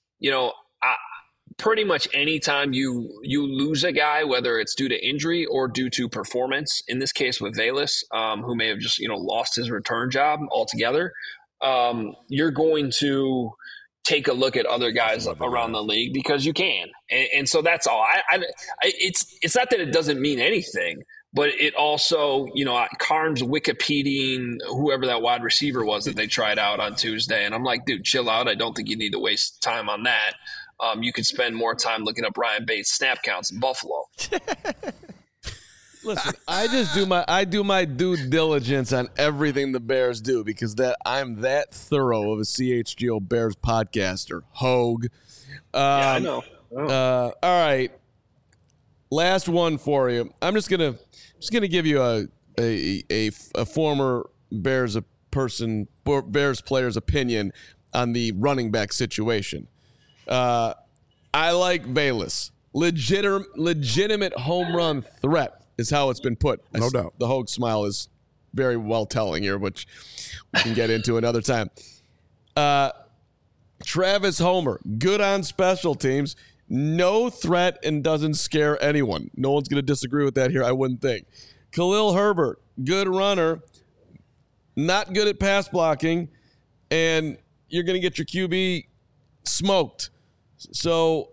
E: pretty much anytime you lose a guy, whether it's due to injury or due to performance, in this case with Velus, who may have just, lost his return job altogether, you're going to take a look at other guys around the league because you can. And so that's all. It's not that it doesn't mean anything, but it also, Carnes Wikipediaing whoever that wide receiver was that they tried out on Tuesday. And I'm like, dude, chill out. I don't think you need to waste time on that. You could spend more time looking up Ryan Bates snap counts in Buffalo.
A: Listen, I do my due diligence on everything the Bears do because I'm that thorough of a CHGO Bears podcaster. Hogue.
E: Yeah, I know.
A: All right. Last one for you. I'm just gonna give you a former Bears player's opinion on the running back situation. I like Velus. Legitimate home run threat is how it's been put.
B: No doubt.
A: The Hogue smile is very well telling here, which we can get into another time. Travis Homer, good on special teams. No threat and doesn't scare anyone. No one's going to disagree with that here, I wouldn't think. Khalil Herbert, good runner, not good at pass blocking, and you're going to get your QB smoked. So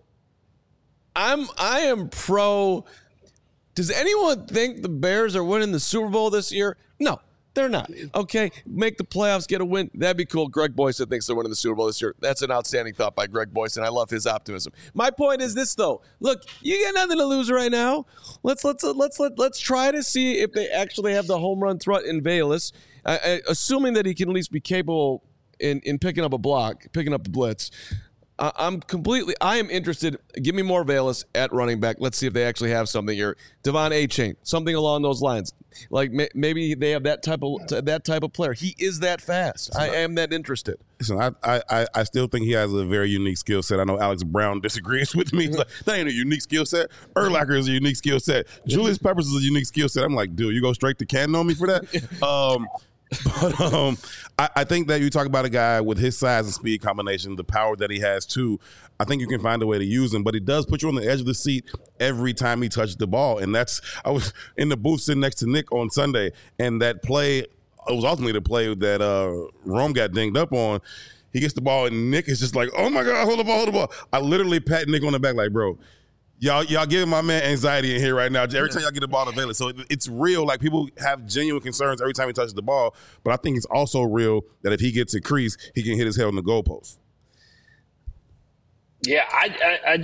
A: I am pro. Does anyone think the Bears are winning the Super Bowl this year? No, they're not. Okay, make the playoffs, get a win. That'd be cool. Greg Boyson thinks they're winning the Super Bowl this year. That's an outstanding thought by Greg Boyson. I love his optimism. My point is this, though. Look, you got nothing to lose right now. Let's try to see if they actually have the home run threat in Velus, assuming that he can at least be capable in picking up a block, picking up the blitz. I am interested. Give me more Velus at running back. Let's see if they actually have something here. Devon Achane, something along those lines. Like maybe they have that type of player. He is that fast. I am that interested.
B: Listen, I still think he has a very unique skill set. I know Alex Brown disagrees with me. He's like, that ain't a unique skill set. Urlacher is a unique skill set. Julius Peppers is a unique skill set. I'm like, dude, you go straight to Canton on me for that? But I think that you talk about a guy with his size and speed combination, the power that he has too. I think you can find a way to use him, but he does put you on the edge of the seat every time he touches the ball. And I was in the booth sitting next to Nick on Sunday, and that play, it was ultimately the play that Rome got dinged up on. He gets the ball, and Nick is just like, oh my God, hold the ball. I literally pat Nick on the back like, bro, Y'all giving my man anxiety in here right now. Every time y'all get the ball to Velus. So it's real. Like, people have genuine concerns every time he touches the ball. But I think it's also real that if he gets a crease, he can hit his head on the goalpost.
E: Yeah, I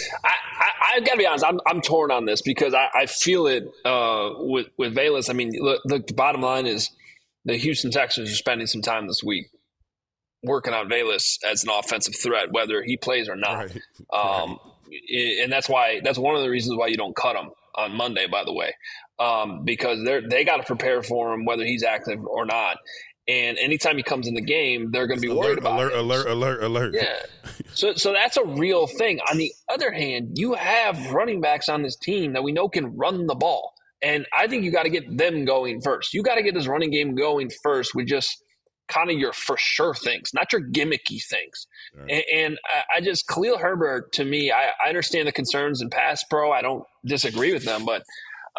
E: got to be honest. I'm torn on this because I feel it with Velus. I mean, look, the bottom line is the Houston Texans are spending some time this week working on Velus as an offensive threat, whether he plays or not. Right. And that's one of the reasons why you don't cut him on Monday, by the way, because they got to prepare for him whether he's active or not. And anytime he comes in the game, they're going to be worried about it.
B: Alert.
E: Yeah. So that's a real thing. On the other hand, you have running backs on this team that we know can run the ball. And I think you got to get them going first. You got to get this running game going first with just kind of your for sure things, not your gimmicky things. Right. And I just, Khalil Herbert, to me, I understand the concerns in pass pro. I don't disagree with them, but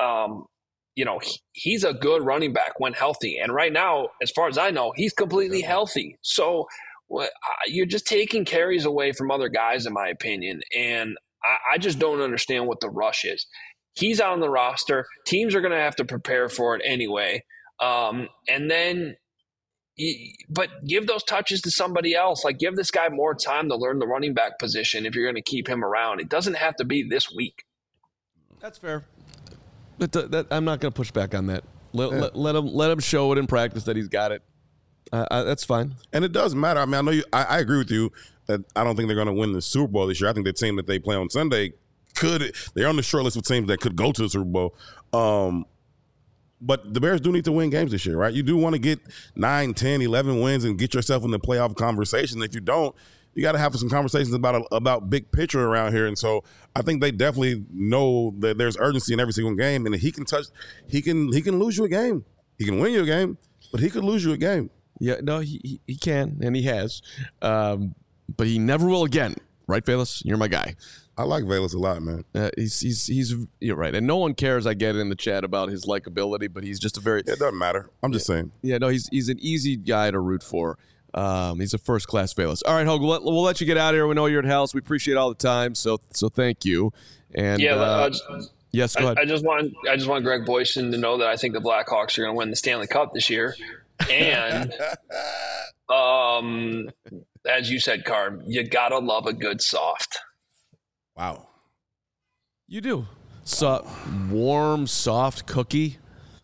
E: he's a good running back when healthy. And right now, as far as I know, he's completely healthy. So you're just taking carries away from other guys, in my opinion. And I just don't understand what the rush is. He's on the roster. Teams are going to have to prepare for it anyway. And then, but give those touches to somebody else. Like, give this guy more time to learn the running back position if you're going to keep him around. It doesn't have to be this week.
A: That's fair. I'm not going to push back on that. Let him show it in practice that he's got it. That's fine.
B: And it does matter. I mean, I know I agree with you that I don't think they're going to win the Super Bowl this year. I think the team that they play on Sunday they're on the short list of teams that could go to the Super Bowl. But the Bears do need to win games this year, right? You do want to get 9, 10, 11 wins and get yourself in the playoff conversation. If you don't, you got to have some conversations about big picture around here. And so I think they definitely know that there's urgency in every single game, and he can lose you a game. He can win you a game, but he could lose you a game.
A: Yeah, no, he can, and he has. But he never will again. Right, Velus? You're my guy.
B: I like Velus a lot, man.
A: He's you're right. And no one cares, I get it in the chat, about his likability, but he's just a very...
B: It doesn't matter. I'm just saying.
A: Yeah, no, he's an easy guy to root for. He's a first-class Velus. All right, Hogue, we'll let you get out of here. We know you're at house. We appreciate all the time, so thank you. And yes, go ahead.
E: I just want Greg Boyson to know that I think the Blackhawks are going to win the Stanley Cup this year. And as you said, Carm, you got to love a good soft.
B: Wow.
A: You do. Warm, soft cookie.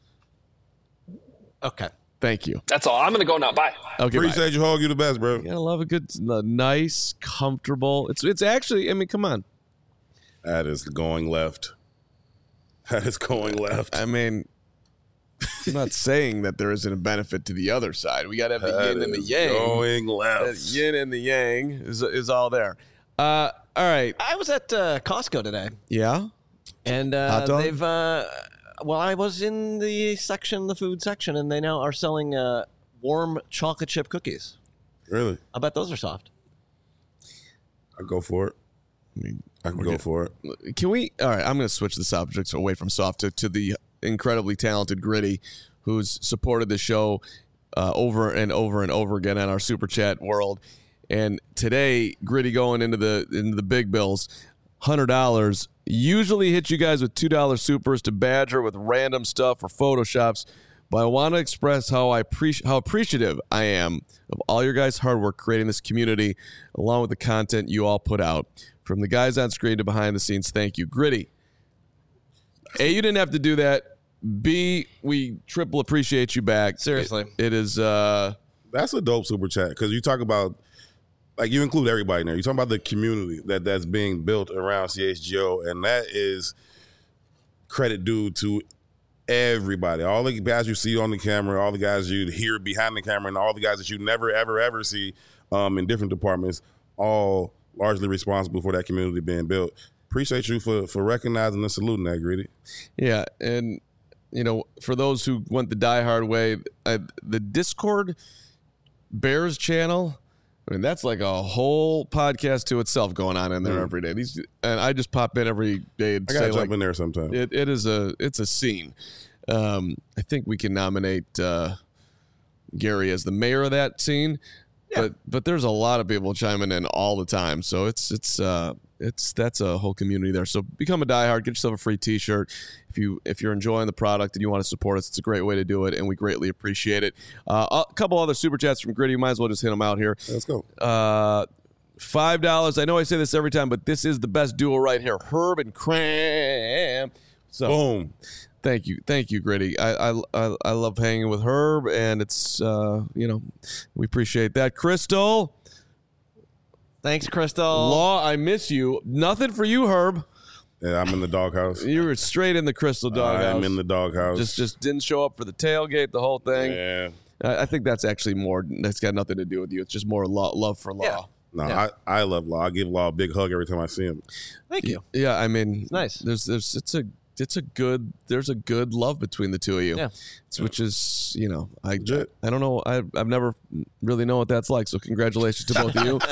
A: Okay. Thank you.
E: That's all. I'm going to go now. Bye.
A: Okay,
B: appreciate you, Hogue. You the best, bro.
A: You gotta love a good, nice, comfortable. It's actually, I mean, come on.
B: That is going left. That is going left.
A: I mean, I'm not saying that there isn't a benefit to the other side. We got to have the yin and the yang.
B: Going left.
A: The yin and the yang is all there. All right.
C: I was at Costco today.
A: Yeah?
C: And they've I was in the food section, and they now are selling warm chocolate chip cookies.
B: Really?
C: I bet those are soft.
B: I'd go for it. I can go for it.
A: Can we? All right, I'm going to switch the subjects away from soft to the incredibly talented Gritty, who's supported the show over and over and over again on our Super Chat world. And today, Gritty going into the big bills, $100. Usually hit you guys with $2 supers to badger with random stuff or photoshops, but I want to express how appreciative I am of all your guys' hard work creating this community, along with the content you all put out. From the guys on screen to behind the scenes, thank you. Gritty, A, you didn't have to do that. B, we triple appreciate you back.
C: Seriously.
A: It is...
B: That's a dope super chat, because you talk about... Like, you include everybody in there. You're talking about the community that's being built around CHGO, and that is credit due to everybody. All the guys you see on the camera, all the guys you hear behind the camera, and all the guys that you never, ever, ever see in different departments, all largely responsible for that community being built. Appreciate you for recognizing and saluting that, Gritty.
A: Yeah, and, for those who went the diehard way, the Discord Bears channel... I mean, that's like a whole podcast to itself going on in there every day. And I just pop in every day and
B: I gotta jump in there sometime.
A: It's a scene. I think we can nominate Gary as the mayor of that scene. Yeah. But there's a lot of people chiming in all the time. So that's a whole community there. So become a diehard, get yourself a free T-shirt. If you're enjoying the product and you want to support us, it's a great way to do it, and we greatly appreciate it. A couple other super chats from Gritty. Might as well just hit them out here.
B: Let's go.
A: $5. I know I say this every time, but this is the best duo right here, Herb and Cram. So
B: boom.
A: Thank you, Gritty. I love hanging with Herb, and it's we appreciate that. Crystal.
C: Thanks, Crystal.
A: Law, I miss you. Nothing for you, Herb.
B: Yeah, I'm in the doghouse.
A: You were straight in the Crystal doghouse.
B: I'm in the doghouse.
A: Just didn't show up for the tailgate, the whole thing.
B: Yeah.
A: I think that's actually more. That's got nothing to do with you. It's just more love for Law.
C: Yeah.
B: No,
C: Yeah.
B: I love Law. I give Law a big hug every time I see him.
C: Thank you.
A: Yeah, I mean,
C: Nice.
A: There's a good love between the two of you.
C: Yeah.
A: Which is, I
B: Legit.
A: don't know. I've never really known what that's like. So congratulations to both of you.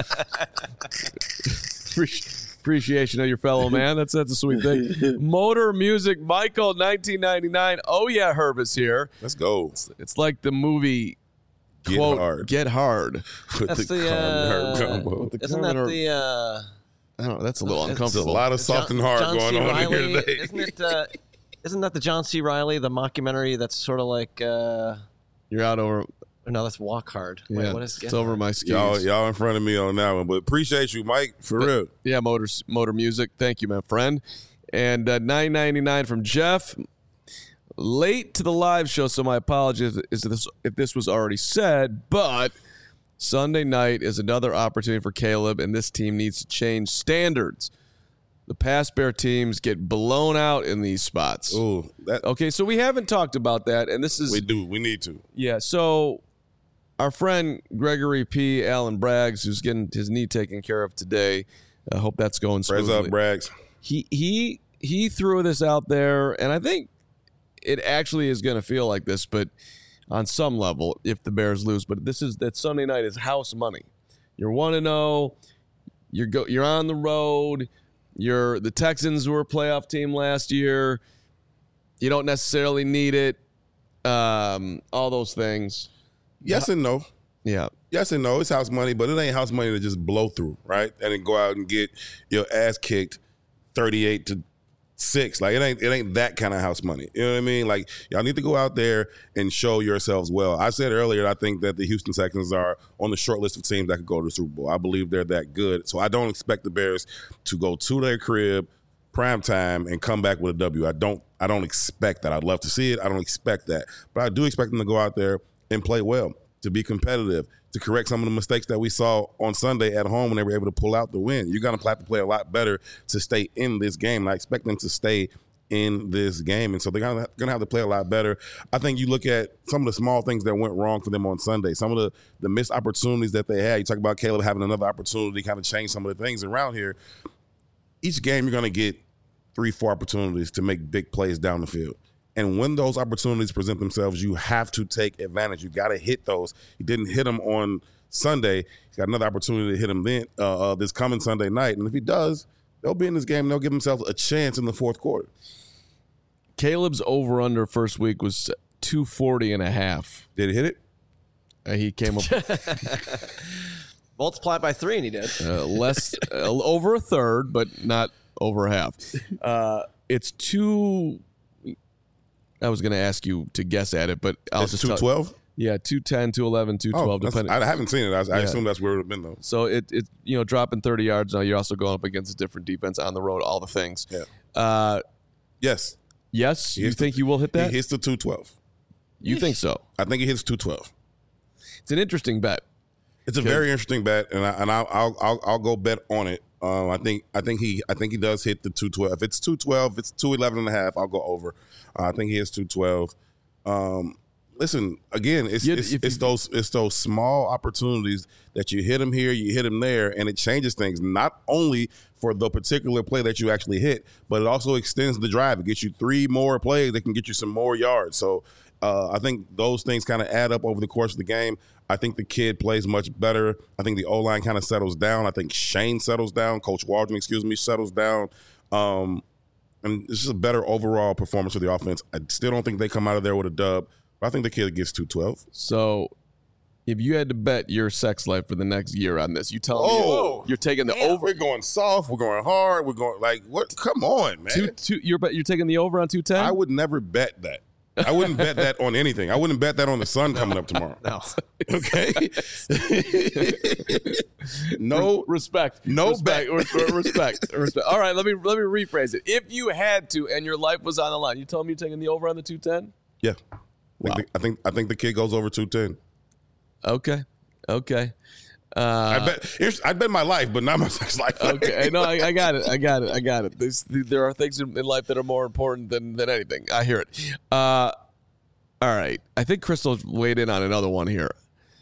A: Appreciation of your fellow man. That's a sweet thing. Motor Music Michael 1999. Oh yeah, Herb is here.
B: Let's go.
A: It's like the movie
B: Get
A: quote,
B: hard.
A: Get Hard.
B: With
C: That's
B: the
C: the,
B: Carmen Herb combo.
A: With the
C: Isn't
A: Carmen
C: that
A: Herb.
C: the
A: I don't know. That's a little
B: There's
A: uncomfortable.
B: a lot of soft and hard
C: John
B: going
C: C.
B: on
C: Reilly,
B: here today.
C: Isn't that the John C. Reilly, the mockumentary that's sort of like
A: You're out over.
C: no, that's Walk Hard. Wait,
A: Yeah,
C: what is
A: it's over my skis.
B: Y'all in front of me on that one, but appreciate you, Mike, for real.
A: Yeah, Motor Music. Thank you, my friend. And $9.99 from Jeff. Late to the live show, so my apologies if this was already said, but Sunday night is another opportunity for Caleb, and this team needs to change standards. The past Bear teams get blown out in these spots.
B: Ooh,
A: Okay, so we haven't talked about that, and this is...
B: We need to.
A: Yeah, so our friend Gregory P. Allen Braggs, who's getting his knee taken care of today, I hope that's going smoothly.
B: Raise up, Braggs.
A: He threw this out there, and I think it actually is going to feel like this, but on some level, if the Bears lose. But that Sunday night is house money. You're 1-0. You're on the road. The Texans were a playoff team last year. You don't necessarily need it. All those things.
B: Yes and no.
A: Yeah.
B: Yes and no. It's house money, but it ain't house money to just blow through, right? And then go out and get your ass kicked 38-6. Like it ain't that kind of house money. You know what I mean? Like y'all need to go out there and show yourselves well. I said earlier, I think that the Houston Texans are on the short list of teams that could go to the Super Bowl. I believe they're that good. So I don't expect the Bears to go to their crib, prime time, and come back with a W. I don't expect that. I'd love to see it. I don't expect that. But I do expect them to go out there and play well, to be competitive, to correct some of the mistakes that we saw on Sunday at home when they were able to pull out the win. You're going to have to play a lot better to stay in this game. And I expect them to stay in this game. And so they're going to have to play a lot better. I think you look at some of the small things that went wrong for them on Sunday, some of the missed opportunities that they had. You talk about Caleb having another opportunity to kind of change some of the things around here. Each game you're going to get 3-4 opportunities to make big plays down the field. And when those opportunities present themselves, you have to take advantage. You got to hit those. He didn't hit them on Sunday. He's got another opportunity to hit them then this coming Sunday night. And if he does, they'll be in this game and they'll give themselves a chance in the fourth quarter.
A: Caleb's over-under first week was 240.5.
B: Did he hit it?
A: He came up
C: multiply by 3, and he did.
A: less over a third, but not over half. It's two. I was going to ask you to guess at it, but I'll
B: It's
A: just
B: 212?
A: Yeah, 210, 211, 212, depending.
B: I haven't seen it. I assume that's where it would have been, though.
A: So it dropping 30 yards. Now you're also going up against a different defense on the road, all the things.
B: Yeah. Yes.
A: Yes? You think you will hit that?
B: He hits the 212.
A: You think so?
B: I think he hits 212.
A: It's an interesting bet.
B: It's a very interesting bet, and I'll go bet on it. I think he does hit the 212. If it's 212, if it's 211.5, I'll go over. I think he hits 212. Listen, again, it's those small opportunities that you hit him here, you hit him there, and it changes things. Not only for the particular play that you actually hit, but it also extends the drive. It gets you 3 more plays that can get you some more yards. So I think those things kind of add up over the course of the game. I think the kid plays much better. I think the O-line kind of settles down. I think Shane settles down. Coach Waldron, settles down. And it's just a better overall performance for the offense. I still don't think they come out of there with a dub, but I think the kid gets 212.
A: So if you had to bet your sex life for the next year on this, you tell me you're taking the over.
B: We're going soft. We're going hard. We're going like what? Come on, man.
A: You're taking the over on 210?
B: I would never bet that. I wouldn't bet that on anything. I wouldn't bet that on the sun coming up tomorrow.
C: No.
B: Okay. No
A: respect.
B: No
A: respect. All right, let me rephrase it. If you had to and your life was on the line, you tell me you're taking the over on the 210?
B: Yeah.
A: Wow.
B: I think the kid goes over 210.
A: Okay.
B: I bet my life, but not my sex life.
A: Okay, no, I got it. There are things in life that are more important than anything. I hear it. All right, I think Crystal weighed in on another one here,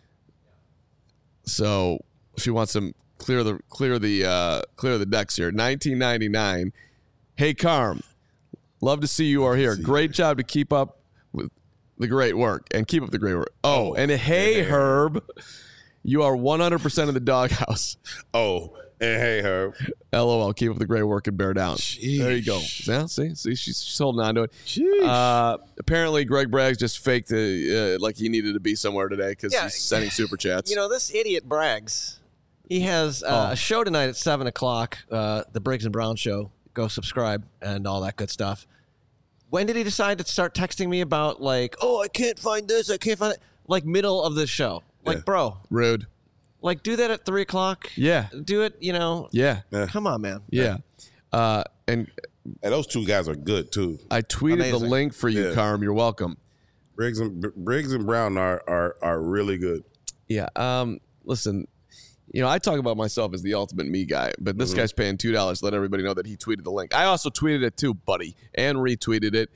A: so she wants to clear the decks here. 1999. Hey, Carm, love to see you are here. Great job to keep up with the great work and keep up the great work. Oh, and hey, Herb. You are 100% in the doghouse.
B: Oh, and hey, Herb.
A: LOL. Keep up the great work and bear down.
B: Sheesh.
A: There you go. Yeah, see, she's holding on to it. Apparently, Greg Braggs just faked like he needed to be somewhere today because he's sending super chats.
C: You know, this idiot Braggs, He has a show tonight at 7 o'clock, the Briggs and Brown Show. Go subscribe and all that good stuff. When did he decide to start texting me about, like, oh, I can't find this, I can't find it? Like, middle of the show. Like, bro.
A: Rude.
C: Like, do that at 3 o'clock.
A: Yeah.
C: Do it, you know.
A: Yeah.
C: Come on, man.
A: Yeah. And
B: those two guys are good, too.
A: I tweeted the link for you, Carm. You're welcome.
B: Briggs and Brown are really good.
A: Yeah. Listen, you know, I talk about myself as the ultimate me guy, but this guy's paying $2 to let everybody know that he tweeted the link. I also tweeted it too, buddy, and retweeted it.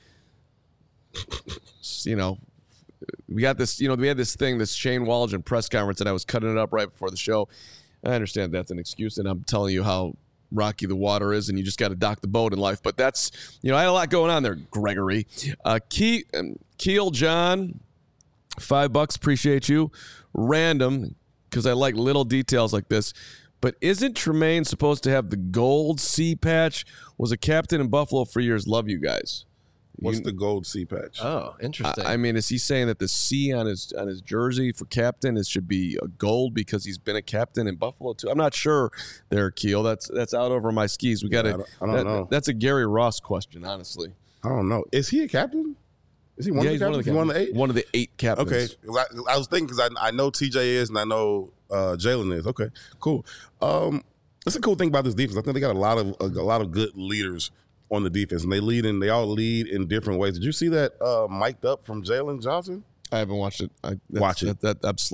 A: You know, we got this, you know, we had this thing, this Shane Waldron press conference, and I was cutting it up right before the show. I understand that's an excuse, and I'm telling you how rocky the water is, and you just got to dock the boat in life. But that's, you know, I had a lot going on there, Gregory. Keel John, $5, appreciate you. Random, because I like little details like this. But isn't Tremaine supposed to have the gold C patch? Was a captain in Buffalo for years. Love you guys.
B: What's the gold C patch?
C: Oh, interesting.
A: I mean, is he saying that the C on his jersey for captain should be a gold because he's been a captain in Buffalo too? I'm not sure there, Keel. That's out over my skis. We got to.
B: I don't know.
A: That's a Gary Ross question, honestly.
B: I don't know. Is he a captain? Is he one of the captains? One of the 8?
A: One of the 8 captains.
B: Okay. I was thinking because I know TJ is and I know Jalen is. Okay, cool. That's a cool thing about this defense. I think they got a lot of good leaders on the defense, and they all lead in different ways. Did you see that mic'd up from Jalen Johnson?
A: I haven't watched it.
B: Watch it.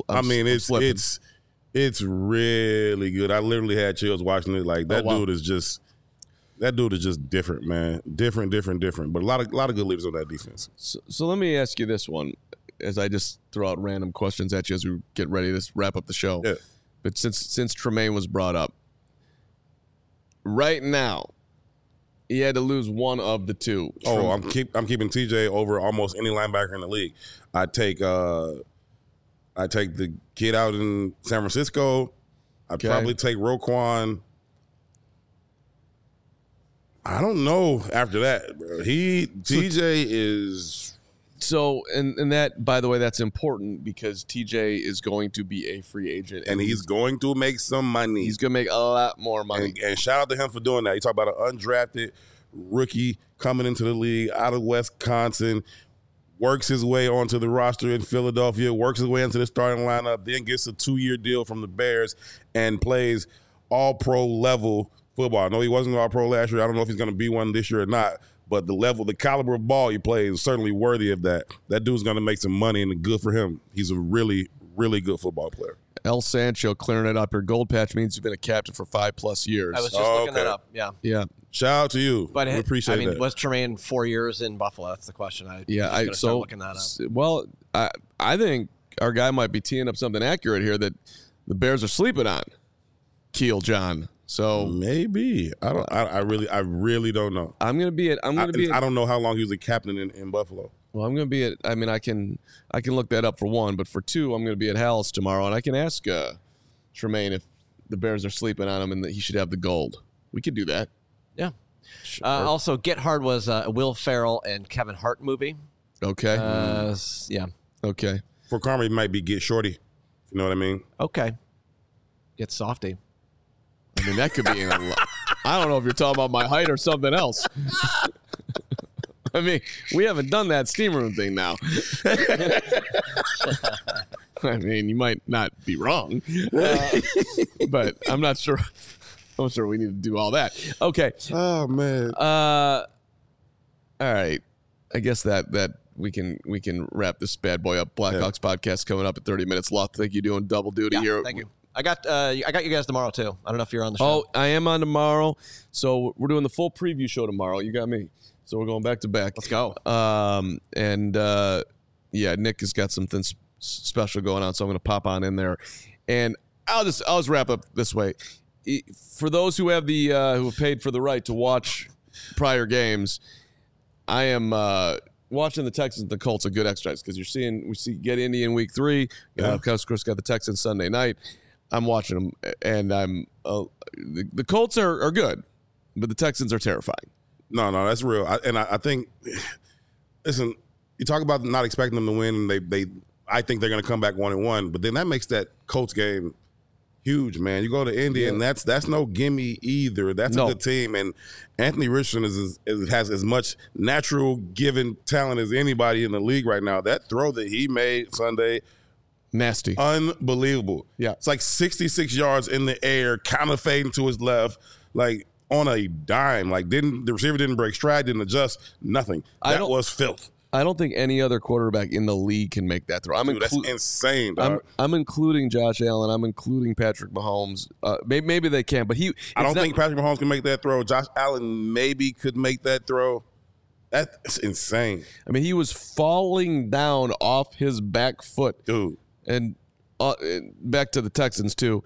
B: It's really good. I literally had chills watching it. Like dude is just different, man. Different. But a lot of good leaders on that defense.
A: So let me ask you this one, as I just throw out random questions at you as we get ready to wrap up the show.
B: Yeah.
A: But since Tremaine was brought up, right now, he had to lose one of the two.
B: Oh, I'm keeping TJ over almost any linebacker in the league. I take the kid out in San Francisco. I'd probably take Roquan. I don't know after that, bro. TJ is.
A: So, and that, by the way, that's important because TJ is going to be a free agent.
B: And he's going to make some money.
A: He's going to make a lot more money.
B: And shout out to him for doing that. You talk about an undrafted rookie coming into the league out of Wisconsin, works his way onto the roster in Philadelphia, works his way into the starting lineup, then gets a 2-year deal from the Bears and plays all-pro level football. I know he wasn't all-pro last year. I don't know if he's going to be one this year or not. But the caliber of ball he plays is certainly worthy of that. That dude's going to make some money, and good for him. He's a really, really good football player.
A: El Sancho clearing it up. Your gold patch means you've been a captain for 5+ years.
C: I was just looking that up. Yeah.
B: Shout out to you.
C: But
B: we appreciate that.
C: I mean, was Tremaine 4 years in Buffalo? That's the question. Start looking that up.
A: Well, I think our guy might be teeing up something accurate here that the Bears are sleeping on. Keel John. So
B: maybe I really don't know.
A: I
B: don't know how long he was a captain in Buffalo.
A: Well, I'm going to be at. I mean, I can look that up for one, but for two, I'm going to be at Hal's tomorrow, and I can ask Tremaine if the Bears are sleeping on him and that he should have the gold. We could do that.
C: Yeah. Sure. Also, Get Hard was a Will Ferrell and Kevin Hart movie.
A: Okay.
C: Yeah.
A: Okay.
B: For Karma, it might be Get Shorty. You know what I mean?
C: Okay. Get Softy.
A: I mean, that could be I don't know if you're talking about my height or something else. I mean, we haven't done that steam room thing now. I mean, you might not be wrong, but I'm not sure. I'm sure we need to do all that. Okay.
B: Oh man.
A: All right. I guess that we can wrap this bad boy up. Blackhawks podcast coming up in 30 minutes. Lot, think you're doing double duty here.
C: Thank you. I got you guys tomorrow too. I don't know if you're on the show.
A: Oh, I am on tomorrow. So we're doing the full preview show tomorrow. You got me. So we're going back to back.
C: Let's go.
A: Nick has got something special going on, so I'm going to pop on in there. And I'll just wrap up this way. For those who have who have paid for the right to watch prior games, I am watching the Texans and the Colts a good exercise because we get Indy in week 3. Of course, got the Texans Sunday night. I'm watching them, and I'm the Colts are good, but the Texans are terrifying.
B: No, that's real. I think, listen, you talk about not expecting them to win, and I think they're going to come back 1-1, but then that makes that Colts game Huge, man. You go to Indy, and that's no gimme either. That's a good team, and Anthony Richardson has as much natural given talent as anybody in the league right now. That throw that he made Sunday,
A: nasty,
B: unbelievable.
A: Yeah,
B: it's like 66 yards in the air, kind of fading to his left, like on a dime. Like the receiver didn't break stride, didn't adjust, nothing. That was filth.
A: I don't think any other quarterback in the league can make that throw.
B: Dude, that's insane, dog.
A: I'm including Josh Allen. I'm including Patrick Mahomes. Maybe they can, but I
B: don't think Patrick Mahomes can make that throw. Josh Allen maybe could make that throw. That's insane.
A: I mean, he was falling down off his back foot.
B: Dude.
A: And back to the Texans, too.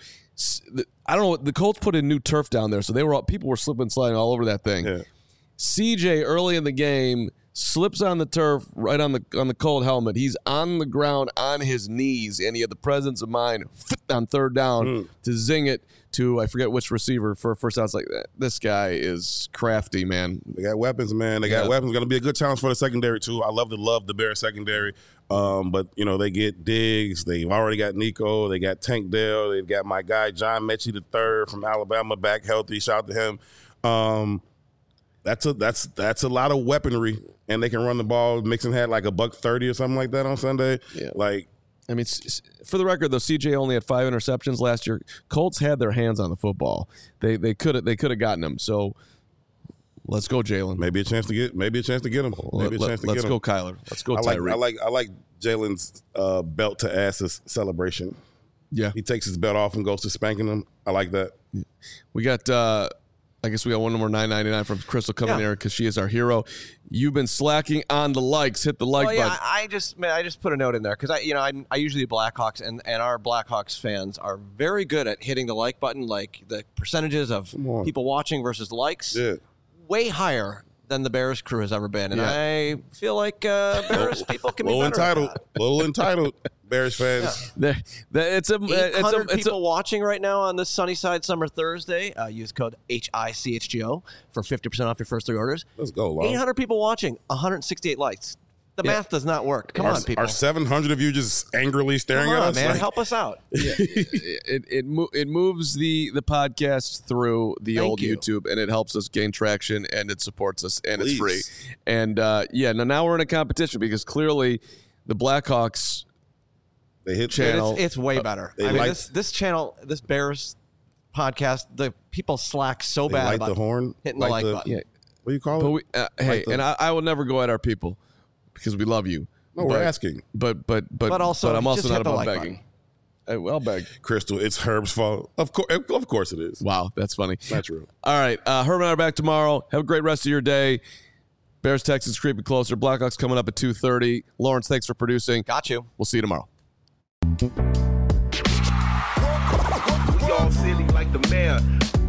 A: I don't know. The Colts put in new turf down there, so people were slipping and sliding all over that thing.
B: Yeah.
A: CJ, early in the game, slips on the turf right on the Colt helmet. He's on the ground on his knees, and he had the presence of mind on third down to zing it to, I forget which receiver for a first down. It's like, this guy is crafty, man.
B: They got weapons, man. They got weapons. Going to be a good challenge for the secondary, too. I love the Bears secondary. But, they get Diggs. They've already got Nico. They got Tank Dell. They've got my guy, John Mechie III from Alabama, back healthy. Shout out to him. That's a lot of weaponry, and they can run the ball. Mixon had like $130 or something like that on Sunday.
A: Yeah.
B: Like,
A: I mean, for the record, though, CJ only had 5 interceptions last year. Colts had their hands on the football. They could have gotten him. So let's go, Jalen.
B: Maybe a chance to get him. Let's
A: go, Kyler. Let's go, Tyreek.
B: I like Jalen's belt to asses celebration.
A: Yeah,
B: he takes his belt off and goes to spanking them. I like that.
A: Yeah. We got. I guess we got one more $9.99 from Crystal coming there because she is our hero. You've been slacking on the likes. Hit the like button.
C: I just put a note in there because I usually Blackhawks and our Blackhawks fans are very good at hitting the like button, like the percentages of people watching versus likes.
B: Yeah.
C: Way higher than the Bears crew has ever been, and I feel like Bears people can be better.
B: Little entitled. Bears fans.
A: Yeah. It's
C: 800 people watching right now on this Sunnyside Summer Thursday. Use code HICHGO for 50% off your first 3 orders.
B: Let's go, Lon.
C: 800 people watching, 168 likes. The math does not work. Come on, people.
B: Are 700 of you just angrily staring at us?
C: Man,
B: like,
C: help us out.
A: Yeah. It moves the podcast through the old YouTube, and it helps us gain traction, and it supports us, and it's free. And now we're in a competition because clearly the Blackhawks.
B: They hit
A: channel.
C: It's way better. This channel, this Bears podcast, the people slack so bad about
B: the horn,
C: hitting the like button.
B: Yeah. What do you call it?
A: I will never go at our people because we love you.
B: No, we're asking.
A: But I'm also not about begging. I'll beg.
B: Crystal, it's Herb's fault. Of course it is.
A: Wow, that's funny.
B: Not true.
A: All right, Herb and I are back tomorrow. Have a great rest of your day. Bears, Texans creeping closer. Blackhawks coming up at 2:30. Lawrence, thanks for producing.
C: Got you.
A: We'll see you tomorrow.
F: We all silly like the mayor.